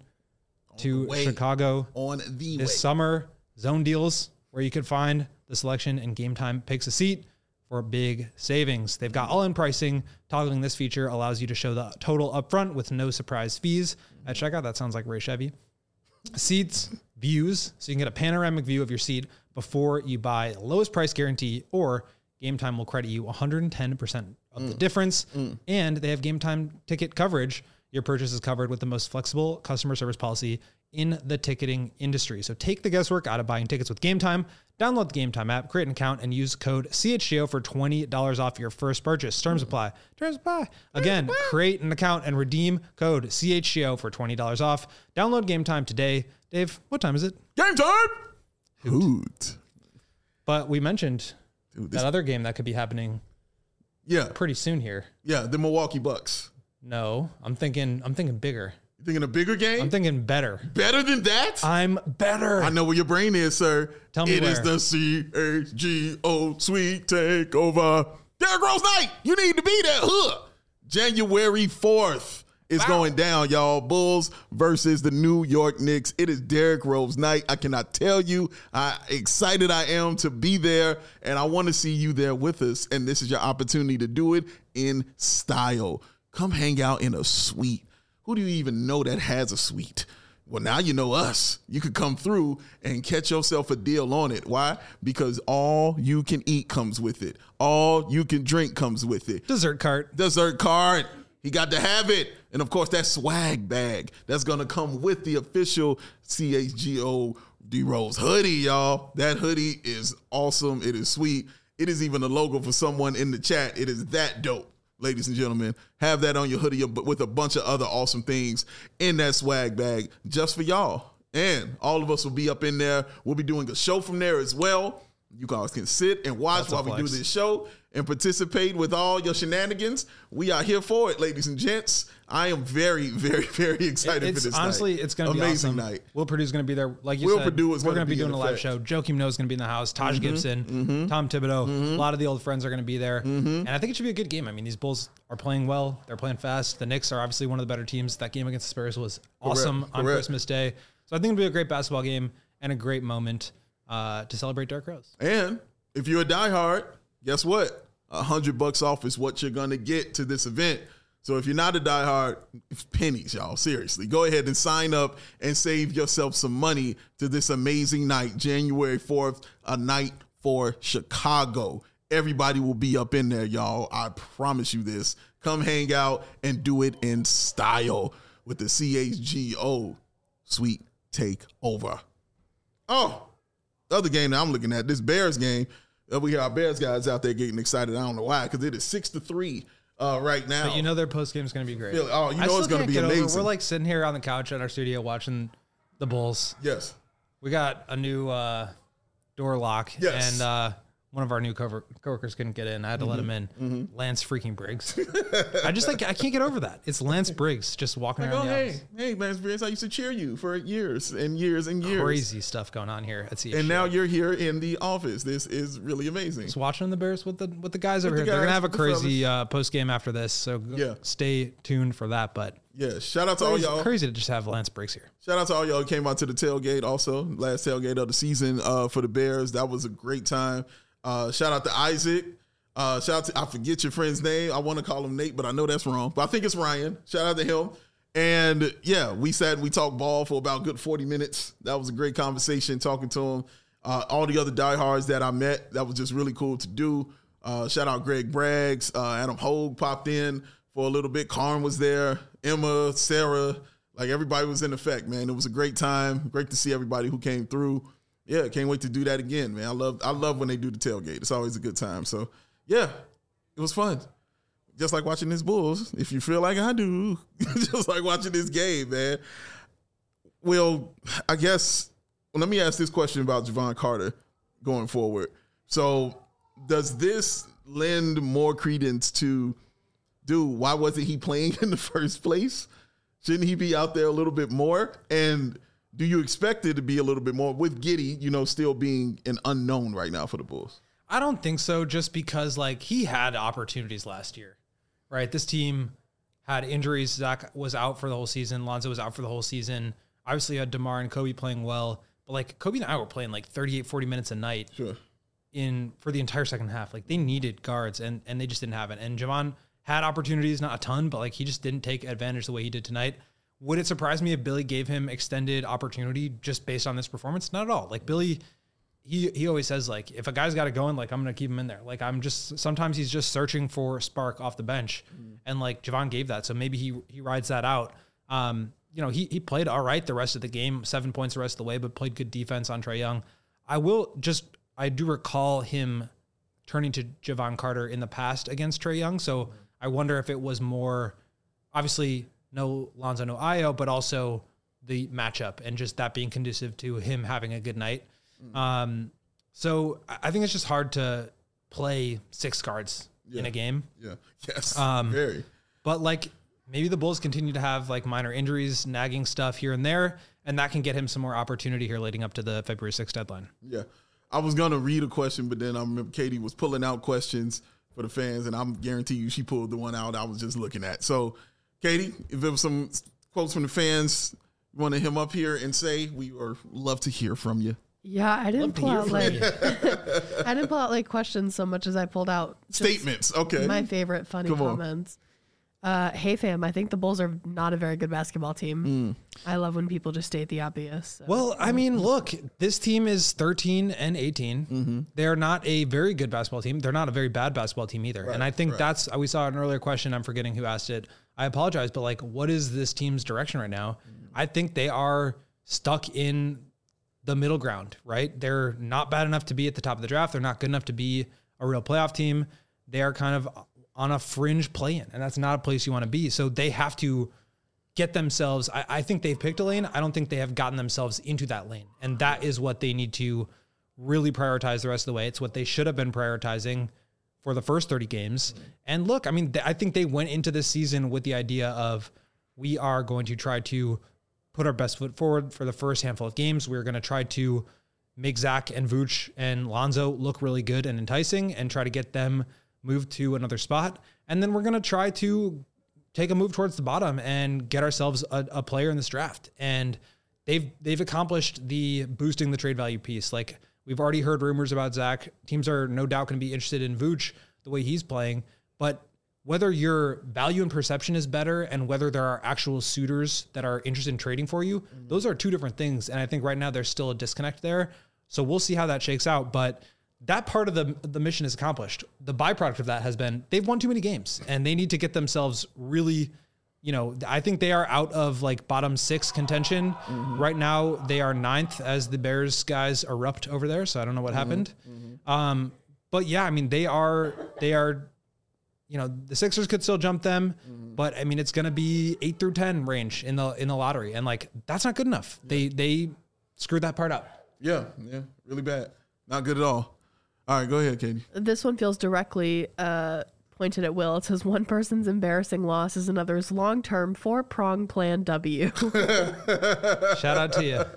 to Chicago this summer. Zone deals where you could find the selection, and Game Time picks a seat for big savings. They've got all-in pricing. Toggling this feature allows you to show the total upfront with no surprise fees at checkout. That sounds like Ray Chevy. Seats, views, so you can get a panoramic view of your seat before you buy. Lowest price guarantee, or Game Time will credit you 110% of the difference. And they have Game Time ticket coverage. Your purchase is covered with the most flexible customer service policy in the ticketing industry. So take the guesswork out of buying tickets with Game Time. Download the Game Time app, create an account, and use code CHGO for $20 off your first purchase. Terms apply. Again, create an account and redeem code CHGO for $20 off. Download Game Time today. Dave, what time is it? Game time! Hoot. But we mentioned that other game that could be happening pretty soon here. Yeah, the Milwaukee Bucks. No, I'm thinking bigger. You thinking a bigger game? I'm thinking better. Better than that? I'm better. I know where your brain is, sir. Tell me It is the CHGO Sweet Takeover. Derrick Rose Night. You need to be there. January 4th is going down, y'all. Bulls versus the New York Knicks. It is Derrick Rose Night. I cannot tell you how excited I am to be there, and I want to see you there with us, and this is your opportunity to do it in style. Come hang out in a suite. Who do you even know that has a suite? Well, now you know us. You could come through and catch yourself a deal on it. Why? Because all you can eat comes with it. All you can drink comes with it. Dessert cart. He got to have it. And, of course, that swag bag that's going to come with the official CHGO D-Rose hoodie, y'all. That hoodie is awesome. It is sweet. It is even a logo for someone in the chat. It is that dope. Ladies and gentlemen, have that on your hoodie with a bunch of other awesome things in that swag bag just for y'all. And all of us will be up in there. We'll be doing a show from there as well. You guys can sit and watch That's a while we do flex. this show and participate with all your shenanigans. We are here for it, ladies and gents. I am very, very, very excited for this honestly, night. it's going to be amazing awesome. night. Will Purdue's going to be there. Like you Will said, Purdue is we're gonna going to be be in doing a live effect. show. Joakim Noah is going to be in the house. Taj Gibson, Tom Thibodeau. A lot of the old friends are going to be there. And I think it should be a good game. I mean, these Bulls are playing well. They're playing fast. The Knicks are obviously one of the better teams. That game against the Spurs was awesome on correct. Christmas Day. So I think it'll be a great basketball game and a great moment to celebrate Derrick Rose. And if you're a diehard, guess what? $100 off is what you're going to get to this event. So if you're not a diehard, it's pennies, y'all. Seriously, go ahead and sign up and save yourself some money to this amazing night, January 4th, a night for Chicago. Everybody will be up in there, y'all. I promise you this. Come hang out and do it in style with the CHGO Sweet Takeover. Oh, the other game that I'm looking at, this Bears game. We hear our Bears guys out there getting excited. I don't know why, because it is 6-3 right now. But you know their post game is going to be great. Oh, you I know it's still going to can't be get over- amazing. We're like sitting here on the couch at our studio watching the Bulls. Yes. We got a new door lock, Yes. and one of our new coworkers couldn't get in. I had to let him in. Lance freaking Briggs. I can't get over that. It's Lance Briggs just walking Like, around oh, the hey, office. hey, man, Spears, I used to cheer you for years and years and years. Crazy stuff going on here at CHGO. And now you're here in the office. This is really amazing. just watching the Bears with the guys over the here. They're gonna guys, have a the crazy post game after this, so Yeah. stay tuned for that. But Yeah, shout out to all it's y'all. crazy to just have Lance Briggs here. Shout out to all y'all who came out to the tailgate also. Last tailgate of the season for the Bears. That was a great time. Shout out to Isaac. Shout out to, I forget your friend's name. I want to call him Nate, but I know that's wrong. But I think it's Ryan. Shout out to him. And yeah, we talked ball for about a good 40 minutes. That was a great conversation talking to him. All the other diehards that I met, that was just really cool to do. Shout out Greg Braggs. Adam Hogue popped in for a little bit. Karn was there. Emma, Sarah, like everybody was in effect, man. It was a great time. Great to see everybody who came through. Yeah, can't wait to do that again, man. I love when they do the tailgate. It's always a good time. So yeah, it was fun. Just like watching this Bulls, if you feel like I do, just like watching this game, man. Well, I guess, let me ask this question about Javon Carter going forward. So does this lend more credence to, dude, why wasn't he playing in the first place? Shouldn't he be out there a little bit more? And do you expect it to be a little bit more with Giddey, still being an unknown right now for the Bulls? I don't think so, just because like he had opportunities last year, right? This team had injuries. Zach was out for the whole season. Lonzo was out for the whole season. Obviously you had DeMar and Kobe playing well, but like Kobe and I were playing like 38, 40 minutes a night Sure. for the entire second half. Like they needed guards and they just didn't have it. And Javon had opportunities, not a ton, but like he just didn't take advantage the way he did tonight. Would it surprise me if Billy gave him extended opportunity just based on this performance? Not at all. Like Billy, he always says like, if a guy's got it going, like I'm going to keep him in there. Like sometimes he's just searching for a spark off the bench. And like Javon gave that. So maybe he rides that out. He played all right the rest of the game, 7 points the rest of the way, but played good defense on Trae Young. I do recall him turning to Javon Carter in the past against Trae Young. So I wonder if it was more, obviously no Lonzo, no Ayo, but also the matchup and just that being conducive to him having a good night. So I think it's just hard to play six guards in a game. Yeah. Yes. Very. But like maybe the Bulls continue to have like minor injuries, nagging stuff here and there, and that can get him some more opportunity here leading up to the February 6th deadline. Yeah. I was going to read a question, but then I remember Katie was pulling out questions for the fans, and I'm guarantee you she pulled the one out I was just looking at. So, Katie, if there was some quotes from the fans you want to him up here and say, we would love to hear from you. Yeah, I didn't pull out hear I didn't pull out like questions so much as I pulled out just Statements. Okay. my favorite funny Come on. comments. Hey fam, I think the Bulls are not a very good basketball team. I love when people just state the obvious. So. Well, I mean, look, this team is 13 and 18. They're not a very good basketball team. They're not a very bad basketball team either. And I think we saw an earlier question. I'm forgetting who asked it. I apologize, but like, what is this team's direction right now? I think they are stuck in the middle ground, right? They're not bad enough to be at the top of the draft. They're not good enough to be a real playoff team. They are kind of on a fringe play-in, and that's not a place you want to be. So they have to get themselves, I think they've picked a lane. I don't think they have gotten themselves into that lane. And that is what they need to really prioritize the rest of the way. It's what they should have been prioritizing for the first 30 games. And look, I mean, I think they went into this season with the idea of, we are going to try to put our best foot forward for the first handful of games. We're going to try to make Zach and Vooch and Lonzo look really good and enticing and try to get them moved to another spot. And then we're going to try to take a move towards the bottom and get ourselves a player in this draft. And they've accomplished the boosting the trade value piece. Like, we've already heard rumors about Zach. Teams are no doubt going to be interested in Vooch the way he's playing, but whether your value and perception is better and whether there are actual suitors that are interested in trading for you, those are two different things. And I think right now there's still a disconnect there. So we'll see how that shakes out. But that part of the mission is accomplished. The byproduct of that has been they've won too many games and they need to get themselves really, I think they are out of like bottom 6 contention. Right now they are 9th as the Bears guys erupt over there. So I don't know what happened. But yeah, I mean, they are, the Sixers could still jump them, but I mean, it's going to be 8 through 10 range in the lottery. And like, that's not good enough. They screwed that part up. Yeah. Really bad. Not good at all. All right, go ahead, Katie. This one feels directly pointed at Will. It says, one person's embarrassing loss is another's long-term 4-prong plan W. Shout out to you.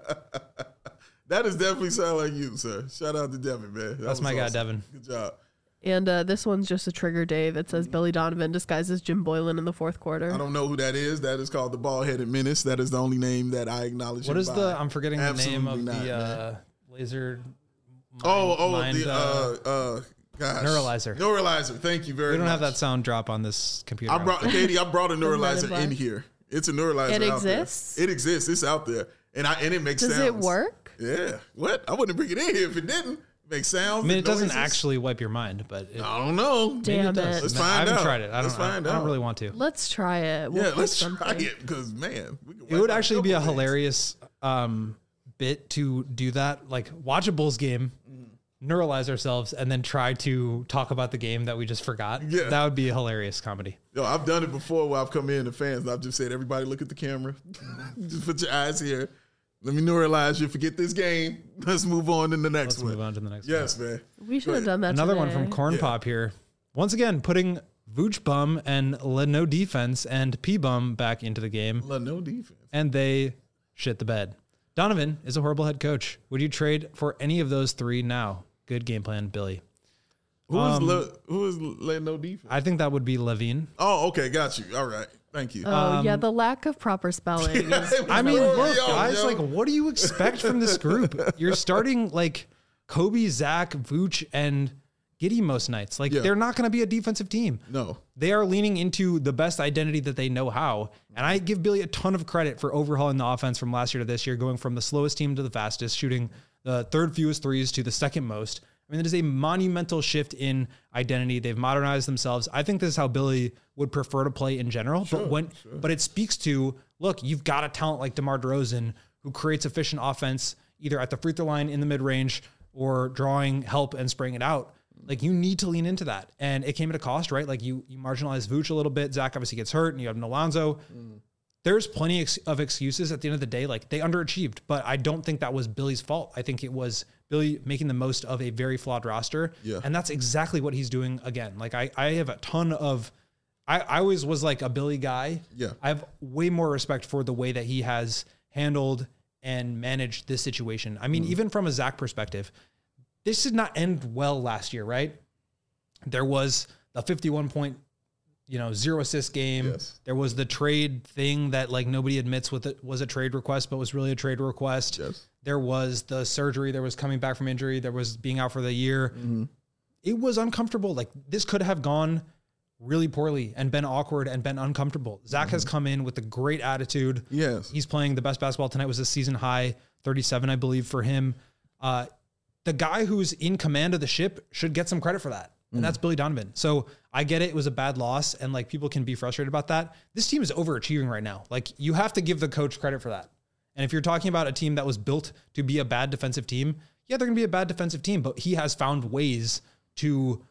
That is definitely sound like you, sir. Shout out to Devin, man. That's my guy, Devin. Good job. And this one's just a trigger, Dave. It says Billy Donovan disguises Jim Boylan in the fourth quarter. I don't know who that is. That is called the Bald-Headed Menace. That is the only name that I acknowledge. What is I'm forgetting the name of the laser. Gosh. Neuralizer. Neuralizer. Thank you very much. We don't have that sound drop on this computer. Katie, I brought a neuralizer in here. It's a neuralizer. It exists? It exists. It's out there. And it makes sounds. Does it work? Yeah. What? I wouldn't bring it in here if it didn't. Make sounds. I mean, it doesn't actually wipe your mind, but I don't know. Damn it. Let's find out. I haven't tried it. I don't really want to. Let's try it. Let's try it because, man. It would actually be a hilarious bit to do that. Like, watch a Bulls game, neuralize ourselves, and then try to talk about the game that we just forgot. Yeah. That would be a hilarious comedy. Yo, I've done it before where I've come in to fans and I've just said, everybody look at the camera. Just put your eyes here. Let me neuralize you. Forget this game. Let's move on to the next one. Let's move on to the next one. Yes, man. We should have done that Another today. one from Corn Pop here. Once again, putting Vooch Bum and No Defense and P Bum back into the game. No Defense. And they shit the bed. Donovan is a horrible head coach. Would you trade for any of those three now? Good game plan, Billy. Who is No Defense? I think that would be Levine. Oh, okay. Got you. All right. Thank you. Oh, yeah, the lack of proper spelling. I mean, look, guys, like, what do you expect from this group? You're starting, like, Kobe, Zach, Vooch, and Giddey most nights. Like, they're not going to be a defensive team. No. They are leaning into the best identity that they know how. And I give Billy a ton of credit for overhauling the offense from last year to this year, going from the slowest team to the fastest, shooting the third fewest threes to the second most. I mean, it is a monumental shift in identity. They've modernized themselves. I think this is how Billy would prefer to play in general. Sure, but it speaks to, look, you've got a talent like DeMar DeRozan who creates efficient offense either at the free throw line, in the mid-range, or drawing help and spraying it out. Like, you need to lean into that. And it came at a cost, right? Like, you marginalize Vooch a little bit. Zach obviously gets hurt, and you have Alonzo. There's plenty of excuses at the end of the day. Like, they underachieved, but I don't think that was Billy's fault. I think it was Billy making the most of a very flawed roster. Yeah. And that's exactly what he's doing again. Like, I have a ton of, I always was like a Billy guy. Yeah. I have way more respect for the way that he has handled and managed this situation. I mean, even from a Zach perspective, this did not end well last year, right? There was the 51-point, 0 assist game. Yes. There was the trade thing that, like, nobody admits was a trade request, but was really a trade request. Yes. There was the surgery. There was coming back from injury. There was being out for the year. It was uncomfortable. Like, this could have gone really poorly and been awkward and been uncomfortable. Zach has come in with a great attitude. Yes. He's playing the best basketball tonight. Was a season high 37, I believe, for him. The guy who's in command of the ship should get some credit for that. And that's Billy Donovan. So I get it. It was a bad loss. And, like, people can be frustrated about that. This team is overachieving right now. Like, you have to give the coach credit for that. And if you're talking about a team that was built to be a bad defensive team, yeah, they're going to be a bad defensive team, but he has found ways to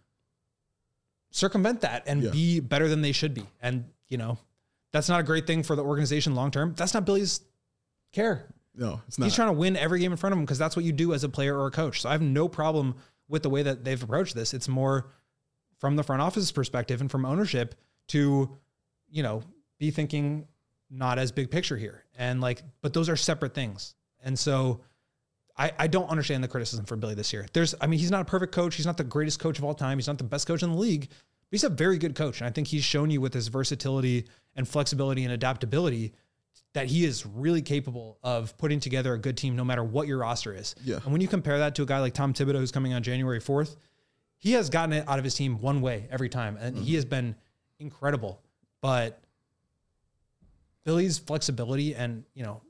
circumvent that and be better than they should be. And, that's not a great thing for the organization long-term. That's not Billy's care. No, it's not. He's trying to win every game in front of him because that's what you do as a player or a coach. So I have no problem with the way that they've approached this. It's more from the front office's perspective and from ownership to, be thinking not as big picture here. And but those are separate things. And so I don't understand the criticism for Billy this year. He's not a perfect coach. He's not the greatest coach of all time. He's not the best coach in the league, but he's a very good coach. And I think he's shown you with his versatility and flexibility and adaptability that he is really capable of putting together a good team no matter what your roster is. Yeah. And when you compare that to a guy like Tom Thibodeau, who's coming on January 4th, he has gotten it out of his team one way every time. And he has been incredible. But Billy's flexibility and,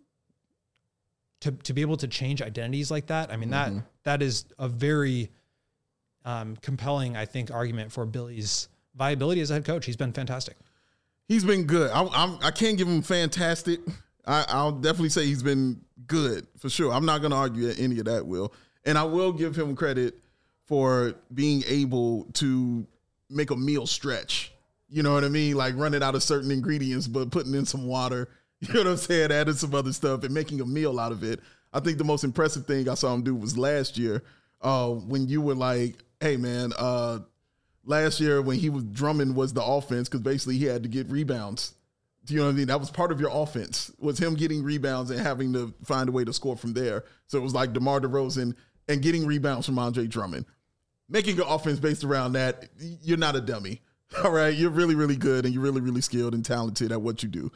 to be able to change identities like that, that is a very compelling, I think, argument for Billy's viability as a head coach. He's been fantastic. He's been good. I can't give him fantastic. I'll definitely say he's been good for sure. I'm not going to argue any of that, Will. And I will give him credit for being able to make a meal stretch. You know what I mean? Like running out of certain ingredients, but putting in some water, you know what I'm saying? Adding some other stuff and making a meal out of it. I think the most impressive thing I saw him do was last year when you were like, hey, man, last year when he was Drummond was the offense because basically he had to get rebounds. Do you know what I mean? That was part of your offense was him getting rebounds and having to find a way to score from there. So it was like DeMar DeRozan and getting rebounds from Andre Drummond. Making an offense based around that, you're not a dummy. All right? You're really, really good and you're really, really skilled and talented at what you do.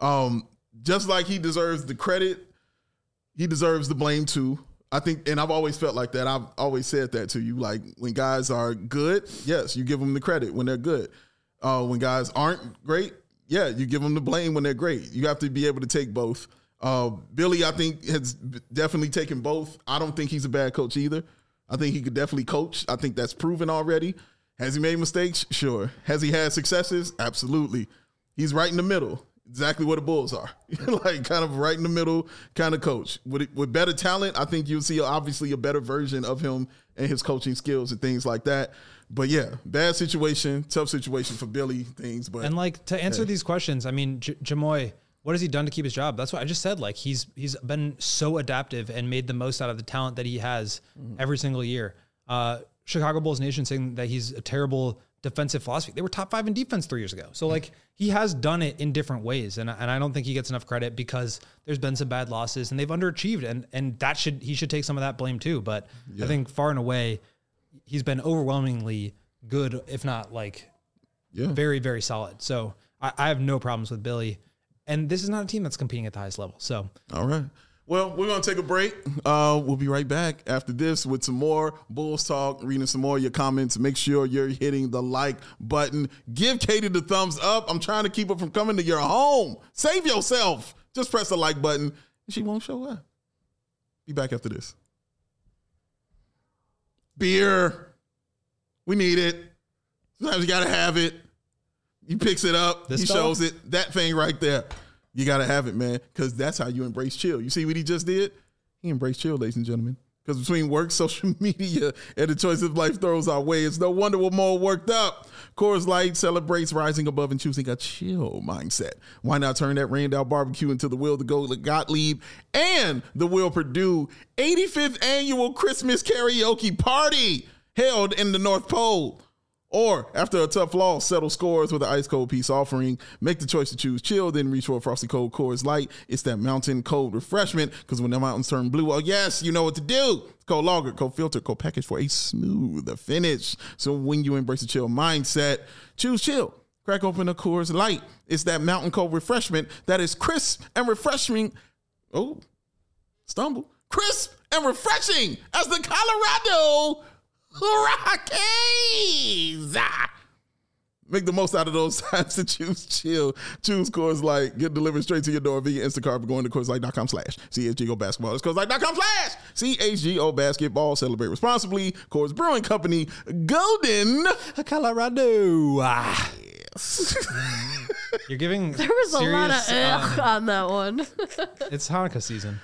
Just like he deserves the credit, he deserves the blame too. I think, and I've always felt like that. I've always said that to you. Like when guys are good, yes, you give them the credit when they're good. When guys aren't great, yeah, you give them the blame when they're great. You have to be able to take both. Billy, I think, has definitely taken both. I don't think he's a bad coach either. I think he could definitely coach. I think that's proven already. Has he made mistakes? Sure. Has he had successes? Absolutely. He's right in the middle. Exactly what the Bulls are. Like kind of right in the middle kind of coach. With better talent, I think you'll see obviously a better version of him and his coaching skills and things like that. But yeah, bad situation, tough situation for Billy things. But and to answer these questions, Jamoy, what has he done to keep his job? That's what I just said. Like he's been so adaptive and made the most out of the talent that he has every single year. Chicago Bulls Nation saying that he's a terrible defensive philosophy. They were top 5 in defense 3 years ago. So he has done it in different ways. And I don't think he gets enough credit because there's been some bad losses and they've underachieved. And he should take some of that blame too. But I think far and away, he's been overwhelmingly good, if not very, very solid. So I have no problems with Billy. And this is not a team that's competing at the highest level. So, all right. Well, we're going to take a break. We'll be right back after this with some more Bulls talk, reading some more of your comments. Make sure you're hitting the like button. Give Katie the thumbs up. I'm trying to keep her from coming to your home. Save yourself. Just press the like button, and she won't show up. Be back after this. Beer. We need it. Sometimes you got to have it. He picks it up. He shows it. That thing right there. You got to have it, man, because that's how you embrace chill. You see what he just did? He embraced chill, ladies and gentlemen. Because between work, social media, and the choices life throws our way, it's no wonder we're more worked up. Coors Light celebrates rising above and choosing a chill mindset. Why not turn that Randall barbecue into the Will to Go Gottlieb and the Will Purdue 85th annual Christmas karaoke party held in the North Pole? Or, after a tough loss, settle scores with an ice cold peace offering. Make the choice to choose chill, then reach for a frosty cold Coors Light. It's that mountain cold refreshment, because when the mountains turn blue, oh yes, you know what to do. It's cold lager, cold filter, cold package for a smooth finish. So when you embrace a chill mindset, choose chill. Crack open a Coors Light. It's that mountain cold refreshment that is crisp and refreshing. Oh, stumble. Crisp and refreshing as the Colorado Rockies. Make the most out of those times to choose chill. Choose Coors Light. Get delivered straight to your door via Instacart by going to CoorsLight.com/CHGO Basketball. It's CoorsLight.com/CHGO Basketball. Celebrate responsibly. Coors Brewing Company, Golden, Colorado. Yes. You're giving There was serious, a lot of on that one. It's Hanukkah season.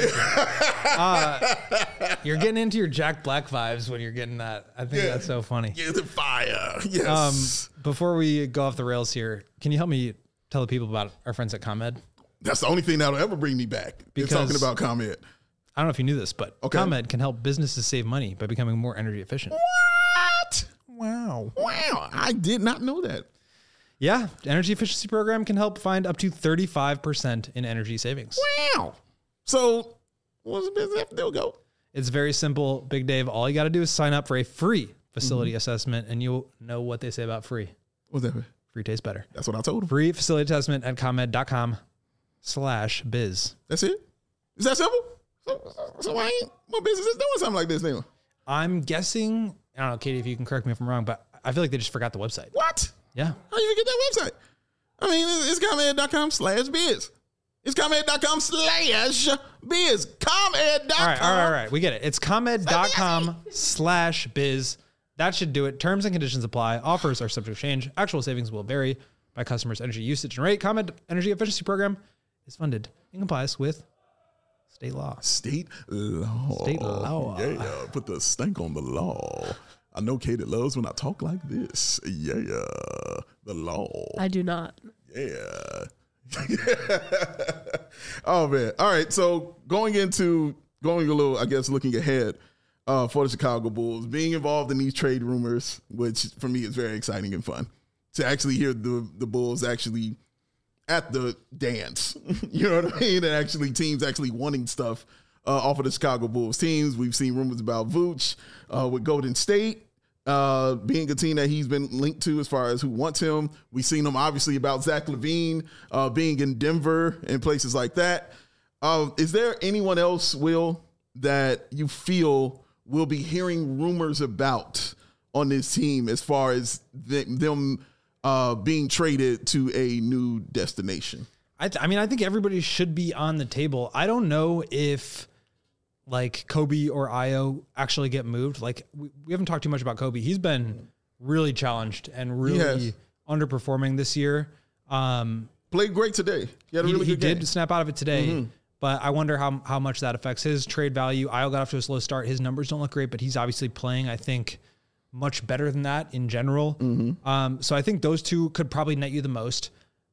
You're getting into your Jack Black vibes when you're getting that. I think that's so funny. Get the fire. Yes. Before we go off the rails here, can you help me tell the people about our friends at ComEd? That's the only thing that'll ever bring me back. Because- talking about ComEd. I don't know if you knew this, but Okay. ComEd can help businesses save money by becoming more energy efficient. What? Wow. Wow. I did not know that. Yeah, energy efficiency program can help find up to 35% in energy savings. Wow. So what's the business have to do? Go. It's very simple, Big Dave. All you got to do is sign up for a free facility assessment, and you'll know what they say about free. What's that? Free tastes better. That's what I told him. Free facility assessment at ComEd.com/biz. That's it? Is that simple? So why ain't my business is doing something like this now? I'm guessing, I don't know, Katie, if you can correct me if I'm wrong, but I feel like they just forgot the website. What? Yeah. How you forget that website? I mean, it's ComEd.com/biz. It's ComEd.com/biz. ComEd.com. All right. We get it. It's ComEd.com/biz. That should do it. Terms and conditions apply. Offers are subject to change. Actual savings will vary by customers' energy usage and rate. ComEd Energy Efficiency Program is funded in compliance with state law. State law. State law. Yeah, put the stank on the law. I know Katie loves when I talk like this. Yeah, the law. I do not. Yeah. Oh, man. All right. So going a little, I guess, looking ahead for the Chicago Bulls, being involved in these trade rumors, which for me is very exciting and fun to actually hear the Bulls actually at the dance. You know what I mean? And actually teams actually wanting stuff off of the Chicago Bulls teams. We've seen rumors about Vooch with Golden State being a team that he's been linked to as far as who wants him. We've seen him obviously about Zach LaVine being in Denver and places like that. Is there anyone else, Will, that you feel we'll be hearing rumors about on this team as far as them being traded to a new destination? I think everybody should be on the table. I don't know if like Kobe or Io actually get moved. Like we haven't talked too much about Kobe. He's been really challenged and really underperforming this year. Played great today. He had a really good game. He did snap out of it today, but I wonder how much that affects his trade value. Io got off to a slow start. His numbers don't look great, but he's obviously playing, I think, much better than that in general. So I think those two could probably net you the most.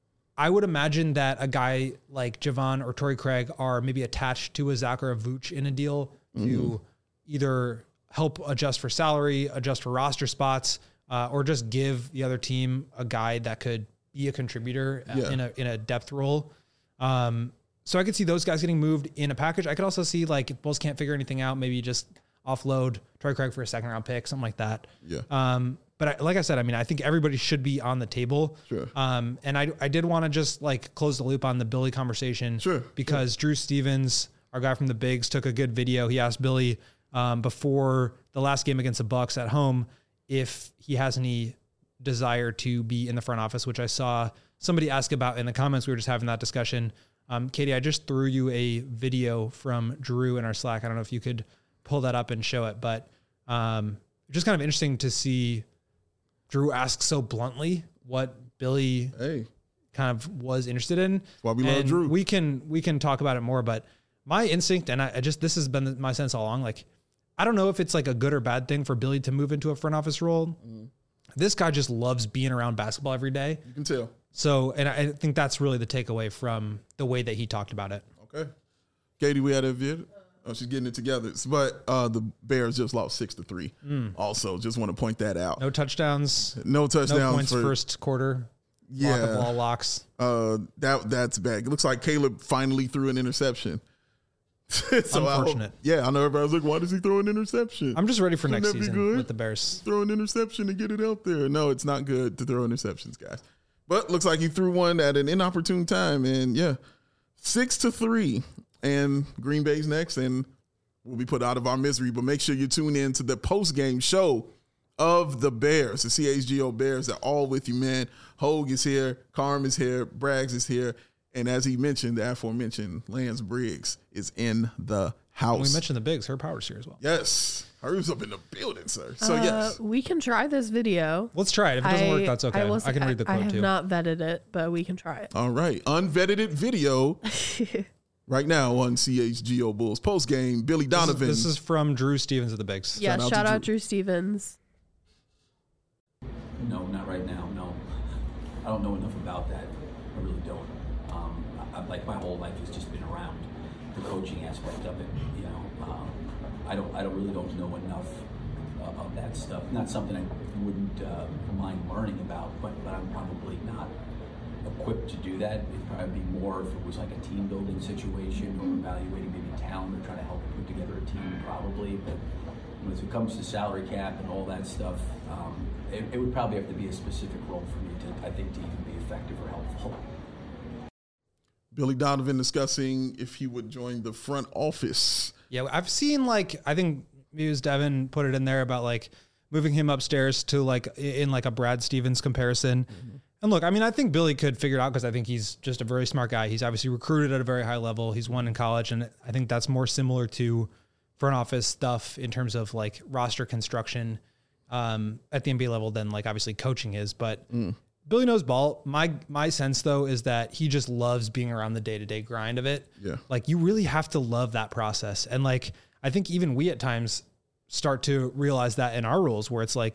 I would imagine that a guy like Javon or Torrey Craig are maybe attached to a Zach or a Vooch in a deal to either help adjust for salary, adjust for roster spots, or just give the other team a guy that could be a contributor in a depth role. So I could see those guys getting moved in a package. I could also see like if Bulls can't figure anything out, maybe just offload Torrey Craig for a second round pick, something like that. Yeah. But like I said, I think everybody should be on the table. Sure. And I did want to just like close the loop on the Billy conversation. Sure. Because Drew Stevens, our guy from the Bigs, took a good video. He asked Billy before the last game against the Bucks at home if he has any desire to be in the front office, which I saw somebody ask about in the comments. We were just having that discussion. Katie, I just threw you a video from Drew in our Slack. I don't know if you could pull that up and show it, but just kind of interesting to see Drew ask so bluntly what Billy kind of was interested in. That's why we love Drew. We can talk about it more, but my instinct, and this has been my sense all along, like, I don't know if it's like a good or bad thing for Billy to move into a front office role. This guy just loves being around basketball every day. You can tell. So, and I think that's really the takeaway from the way that he talked about it. Okay. Katie, we had a vid. Oh, she's getting it together. But the Bears just lost 6-3. Also, just want to point that out. No touchdowns. No touchdowns. No points first quarter. Yeah. Lock of all locks. That's bad. It looks like Caleb finally threw an interception. So Unfortunate. I know everybody's like, why does he throw an interception? I'm just ready for Shouldn't next that be season good? with the Bears. Throw an interception and get it out there. No, it's not good to throw interceptions, guys. But looks like he threw one at an inopportune time. And 6-3. And Green Bay's next. And we'll be put out of our misery. But make sure you tune in to the post-game show of the Bears, the CHGO Bears. They're all with you, man. Hogue is here. Carm is here. Braggs is here. And as he mentioned, the aforementioned Lance Briggs is in the house. We mentioned the Bigs. Her Power's here as well. Yes. Her's up in the building, sir. So, yes. We can try this video. Let's try it. If it doesn't work, that's okay. I can read the quote, I have too. not vetted it, but we can try it. All right. Unvetted video right now on CHGO Bulls post-game. Billy Donovan. This is from Drew Stevens of the Bigs. Yeah, shout out Drew Stevens. No, not right now. No, I don't know enough about that. I really don't. like my whole life has just been around the coaching aspect of it. I really don't know enough of that stuff. Not something I wouldn't mind learning about, but I'm probably not equipped to do that. It'd probably be more if it was like a team building situation or evaluating maybe talent or trying to help put together a team probably. But when it comes to salary cap and all that stuff, it would probably have to be a specific role for me to even be effective or helpful. Billy Donovan discussing if he would join the front office. Yeah, I've seen I think it was Devin put it in there about moving him upstairs to in a Brad Stevens comparison. Mm-hmm. And look, I mean, I think Billy could figure it out because I think he's just a very smart guy. He's obviously recruited at a very high level. He's won in college. And I think that's more similar to front office stuff in terms of roster construction at the NBA level than obviously coaching is. But Billy knows ball. My sense though is that he just loves being around the day-to-day grind of it. Yeah. You really have to love that process. And I think even we at times start to realize that in our roles where it's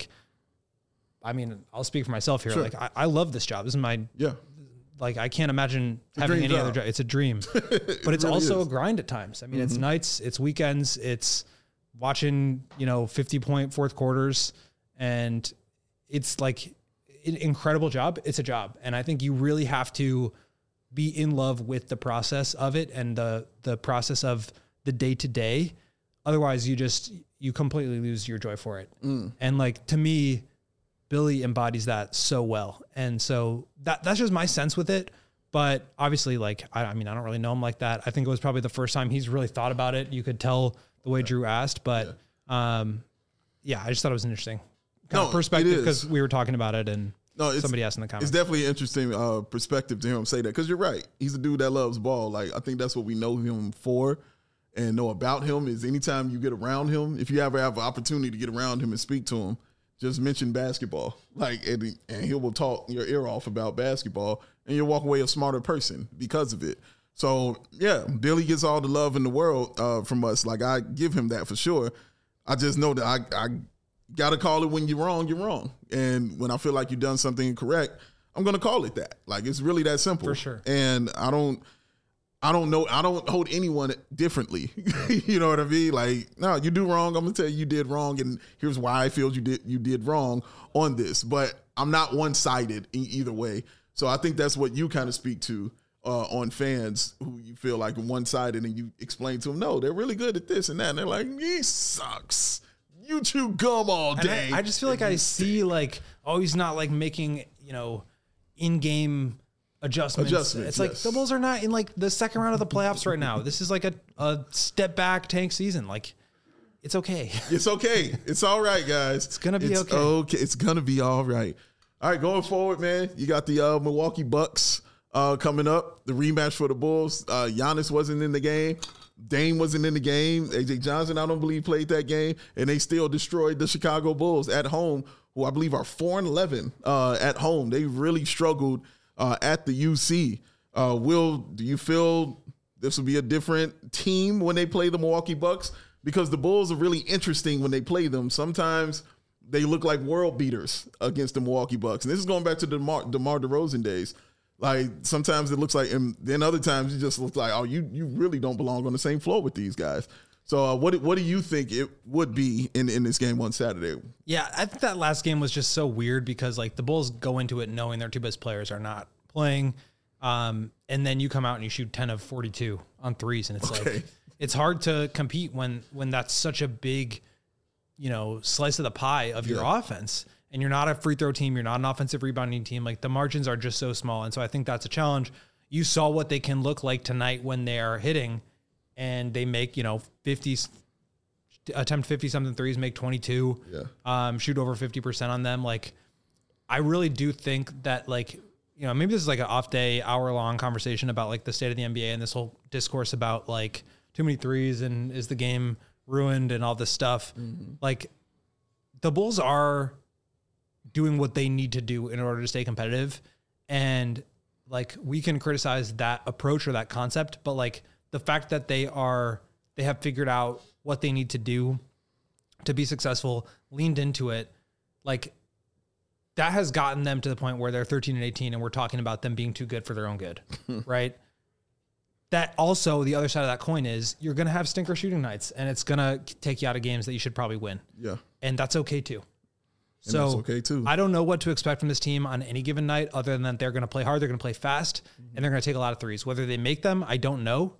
I mean, I'll speak for myself here. Sure. I love this job. This is my, I can't imagine having any other job. It's a dream, but it's really also is. a grind at times. I mean, it's nights, it's weekends, it's watching, 50-point fourth quarters, and it's an incredible job. It's a job. And I think you really have to be in love with the process of it and the process of the day to day. Otherwise you completely lose your joy for it. And to me, Billy embodies that so well. And so that's just my sense with it. But obviously I don't really know him like that. I think it was probably the first time he's really thought about it. You could tell the way Drew asked, but I just thought it was an interesting perspective because we were talking about it and somebody asked in the comments. It's definitely an interesting perspective to hear him say that because you're right. He's a dude that loves ball. I think that's what we know him for and know about him is anytime you get around him, if you ever have an opportunity to get around him and speak to him, just mention basketball. And he will talk your ear off about basketball and you'll walk away a smarter person because of it. So, yeah, Billy gets all the love in the world from us. I give him that for sure. I just know that I got to call it when you're wrong, you're wrong. And when I feel like you've done something incorrect, I'm going to call it that. It's really that simple. For sure. And I don't know. I don't hold anyone differently. You know what I mean? No, you do wrong. I'm going to tell you did wrong. And here's why I feel you did wrong on this. But I'm not one-sided in either way. So I think that's what you kind of speak to on fans who you feel like one-sided and you explain to them, no, they're really good at this and that. And they're like, he sucks. You chew gum all day. I just feel I see he's not making, in-game adjustments. It's yes. The Bulls are not in the second round of the playoffs right now. This is a step back tank season. It's okay. It's okay. It's all right, guys. It's going to be okay. It's going to be all right. All right, going forward, man, you got the Milwaukee Bucks coming up, the rematch for the Bulls. Giannis wasn't in the game. Dame wasn't in the game. AJ Johnson, I don't believe, played that game. And they still destroyed the Chicago Bulls at home, who I believe are 4-11 at home. They really struggled at the UC. Will, do you feel this will be a different team when they play the Milwaukee Bucks? Because the Bulls are really interesting when they play them. Sometimes they look like world beaters against the Milwaukee Bucks. And this is going back to the DeMar DeRozan days. Sometimes it looks like, and then other times it just looks like, oh, you really don't belong on the same floor with these guys. So what do you think it would be in this game on Saturday? Yeah, I think that last game was just so weird because the Bulls go into it knowing their two best players are not playing. And then you come out and you shoot 10 of 42 on threes. And it's it's hard to compete when that's such a big, slice of the pie of your offense. And you're not a free throw team. You're not an offensive rebounding team. The margins are just so small. And so I think that's a challenge. You saw what they can look like tonight when they are hitting and they make, 50s, attempt 50 something threes, make 22, shoot over 50% on them. I really do think that maybe this is an off day, hour long conversation about the state of the NBA and this whole discourse about too many threes and is the game ruined and all this stuff. Mm-hmm. The Bulls are doing what they need to do in order to stay competitive. And we can criticize that approach or that concept, but the fact that they have figured out what they need to do to be successful, leaned into it, that has gotten them to the point where they're 13-18 and we're talking about them being too good for their own good. Right. that also the other side of that coin is you're going to have stinker shooting nights, and it's going to take you out of games that you should probably win. Yeah. And that's okay too. And that's okay too. I don't know what to expect from this team on any given night other than that they're going to play hard, they're going to play fast, and they're going to take a lot of threes. Whether they make them, I don't know.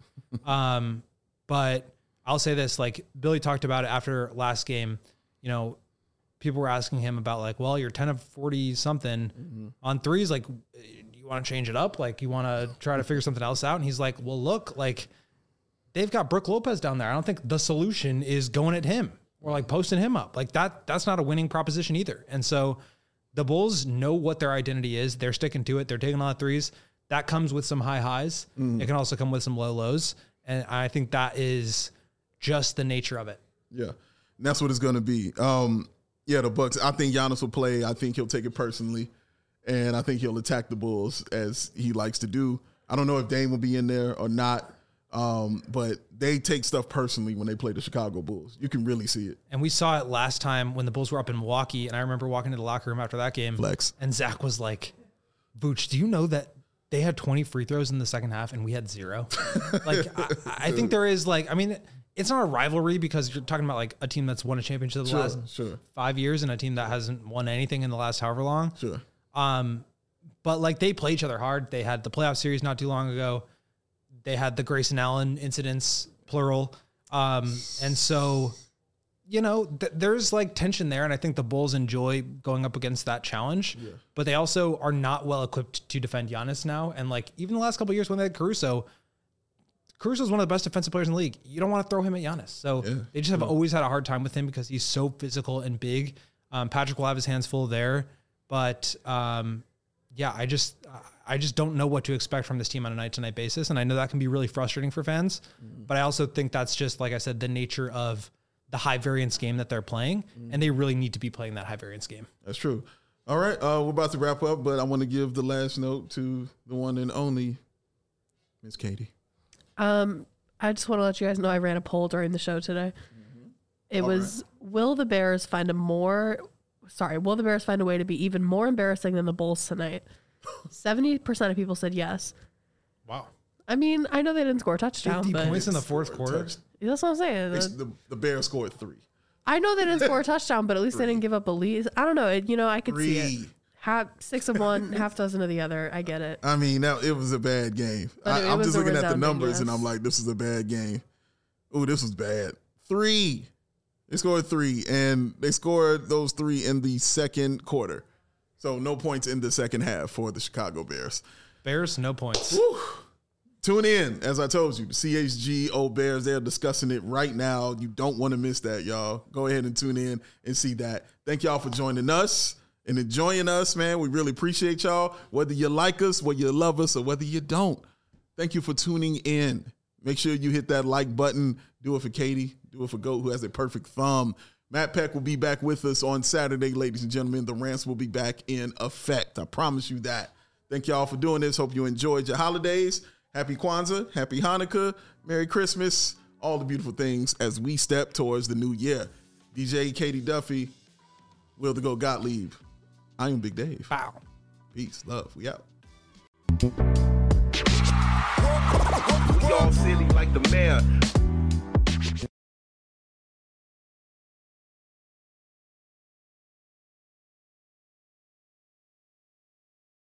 But I'll say this, like Billy talked about it after last game, you know, people were asking him about like, well, you're 10 of 40 something on threes. Like, you want to change it up? Like, you want to try to figure something else out? And he's like, well, look, like they've got Brook Lopez down there. I don't think the solution is going at him or like posting him up. Like that's not a winning proposition either. And so the Bulls know what their identity is. They're sticking to it. They're taking a lot of threes. That comes with some high highs. It can also come with some low lows. And I think that is just the nature of it. Yeah. And that's what it's going to be. Yeah, the Bucks. I think Giannis will play. I think he'll take it personally, and I think he'll attack the Bulls as he likes to do. I don't know if Dame will be in there or not, but they take stuff personally when they play the Chicago Bulls. You can really see it. And we saw it last time when the Bulls were up in Milwaukee, and I remember walking to the locker room after that game. Flex. And Zach was like, Vooch, do you know that they had 20 free throws in the second half and we had 0? Like, I think there is like, I mean, it's not a rivalry because you're talking about like a team that's won a championship the last 5 years and a team that hasn't won anything in the last however long. Sure. But like they play each other hard. They had the playoff series not too long ago. They had the Grayson Allen incidents, plural. And so, you know, there's like tension there. And I think the Bulls enjoy going up against that challenge, but they also are not well equipped to defend Giannis now. And like even the last couple of years when they had Caruso's one of the best defensive players in the league. You don't want to throw him at Giannis. So they just have always had a hard time with him because he's so physical and big. Patrick will have his hands full there. But yeah, I just don't know what to expect from this team on a night-to-night basis. And I know that can be really frustrating for fans. But I also think that's just, like I said, the nature of the high-variance game that they're playing. And they really need to be playing that high-variance game. That's true. All right, we're about to wrap up, but I want to give the last note to the one and only Miss Katie. I just want to let you guys know I ran a poll during the show today. It was, will the Bears find a way to be even more embarrassing than the Bulls tonight? 70% of people said yes. Wow. I mean, I know they didn't score a touchdown, 50 but points in the fourth quarter. That's what I'm saying. The Bears scored 3. I know they didn't score a touchdown, but at least they didn't give up a lead. I don't know. I could see it. 6 of one, half dozen of the other. I get it. I mean, it was a bad game. I'm just looking at the numbers, and I'm like, this is a bad game. Oh, this was bad. 3. They scored 3, and they scored those 3 in the second quarter. So no points in the second half for the Chicago Bears. Bears, no points. Whew. Tune in, as I told you, the CHGO Bears, they're discussing it right now. You don't want to miss that, y'all. Go ahead and tune in and see that. Thank y'all for joining us and enjoying us, man. We really appreciate y'all, whether you like us, whether you love us, or whether you don't. Thank you for tuning in. Make sure you hit that like button. Do it for Katie. Do it for Goat, who has a perfect thumb. Matt Peck will be back with us on Saturday, ladies and gentlemen. The rants will be back in effect. I promise you that. Thank y'all for doing this. Hope you enjoyed your holidays. Happy Kwanzaa, happy Hanukkah, Merry Christmas, all the beautiful things as we step towards the new year. DJ Katie Duffy, Will the Goat Gottlieb. I am Big Dave. Wow. Peace, love, we out. We all silly like the mayor.